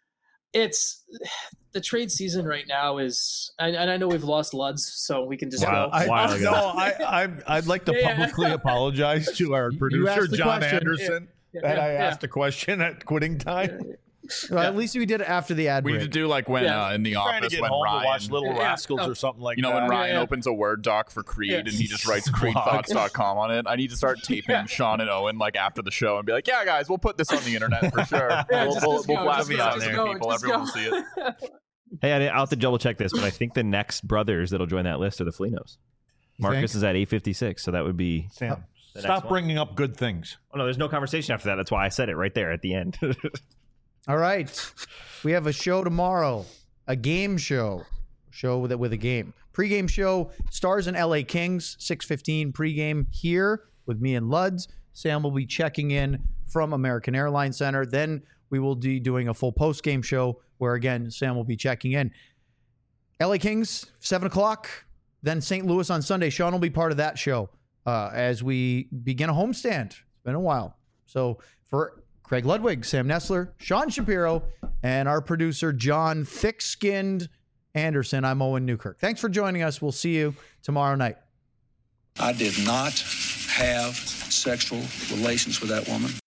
Speaker 8: it's the trade season right now is, and, and I know we've lost Luds, so we can just
Speaker 2: Wow.
Speaker 8: go.
Speaker 3: I,
Speaker 2: While ago.
Speaker 3: no, I, I, I'd like to
Speaker 8: Yeah, yeah.
Speaker 3: publicly apologize to our producer,
Speaker 4: asked the
Speaker 3: John
Speaker 4: question.
Speaker 3: Anderson,
Speaker 8: Yeah,
Speaker 3: that
Speaker 8: yeah,
Speaker 3: I
Speaker 8: yeah.
Speaker 3: asked a question at quitting time.
Speaker 4: Well, At least we did it after the ad
Speaker 1: We
Speaker 4: break.
Speaker 1: need to do like when
Speaker 8: Yeah.
Speaker 1: uh, in the
Speaker 3: Trying to
Speaker 1: office
Speaker 3: get
Speaker 1: when
Speaker 3: home
Speaker 1: Ryan,
Speaker 3: to watch Little
Speaker 8: Yeah, yeah.
Speaker 3: Rascals
Speaker 8: Oh.
Speaker 3: or something like
Speaker 1: you know,
Speaker 3: that.
Speaker 1: when Ryan
Speaker 8: yeah.
Speaker 1: opens a Word doc for Creed
Speaker 8: Yeah.
Speaker 1: and he just writes creed thoughts dot com on it. I need to start taping
Speaker 8: Yeah.
Speaker 1: Sean and Owen like after the show and be like, yeah, guys, we'll put this on the internet for sure.
Speaker 8: Yeah,
Speaker 1: we'll
Speaker 8: just-
Speaker 1: we'll,
Speaker 8: just
Speaker 1: we'll
Speaker 8: go,
Speaker 1: blast
Speaker 8: just
Speaker 1: it
Speaker 8: go,
Speaker 1: out
Speaker 8: just
Speaker 1: there,
Speaker 8: go,
Speaker 1: people.
Speaker 8: just
Speaker 1: Everyone
Speaker 8: go.
Speaker 1: will see it.
Speaker 2: Hey, I didn't, I'll have to double check this, but I think the next brothers that'll join that list are the Flinos.
Speaker 4: You
Speaker 2: Marcus
Speaker 4: think?
Speaker 2: is at eight fifty-six, so that would be.
Speaker 3: Sam,
Speaker 2: The
Speaker 3: stop
Speaker 2: next one.
Speaker 3: bringing up good things.
Speaker 2: Oh no, there's no conversation after that. That's why I said it right there at the end.
Speaker 4: All right. We have a show tomorrow, a game show, show with, with a game. Pre-game show, Stars and L A Kings, six fifteen pregame here with me and Luds. Sam will be checking in from American Airlines Center. Then we will be doing a full post-game show where, again, Sam will be checking in. L A Kings, seven o'clock. Then Saint Louis on Sunday. Sean will be part of that show uh, as we begin a homestand. It's been a while. So for Craig Ludwig, Sam Nessler, Sean Shapiro, and our producer, John Thick-Skinned Anderson, I'm Owen Newkirk. Thanks for joining us. We'll see you tomorrow night.
Speaker 7: I did not have sexual relations with that woman.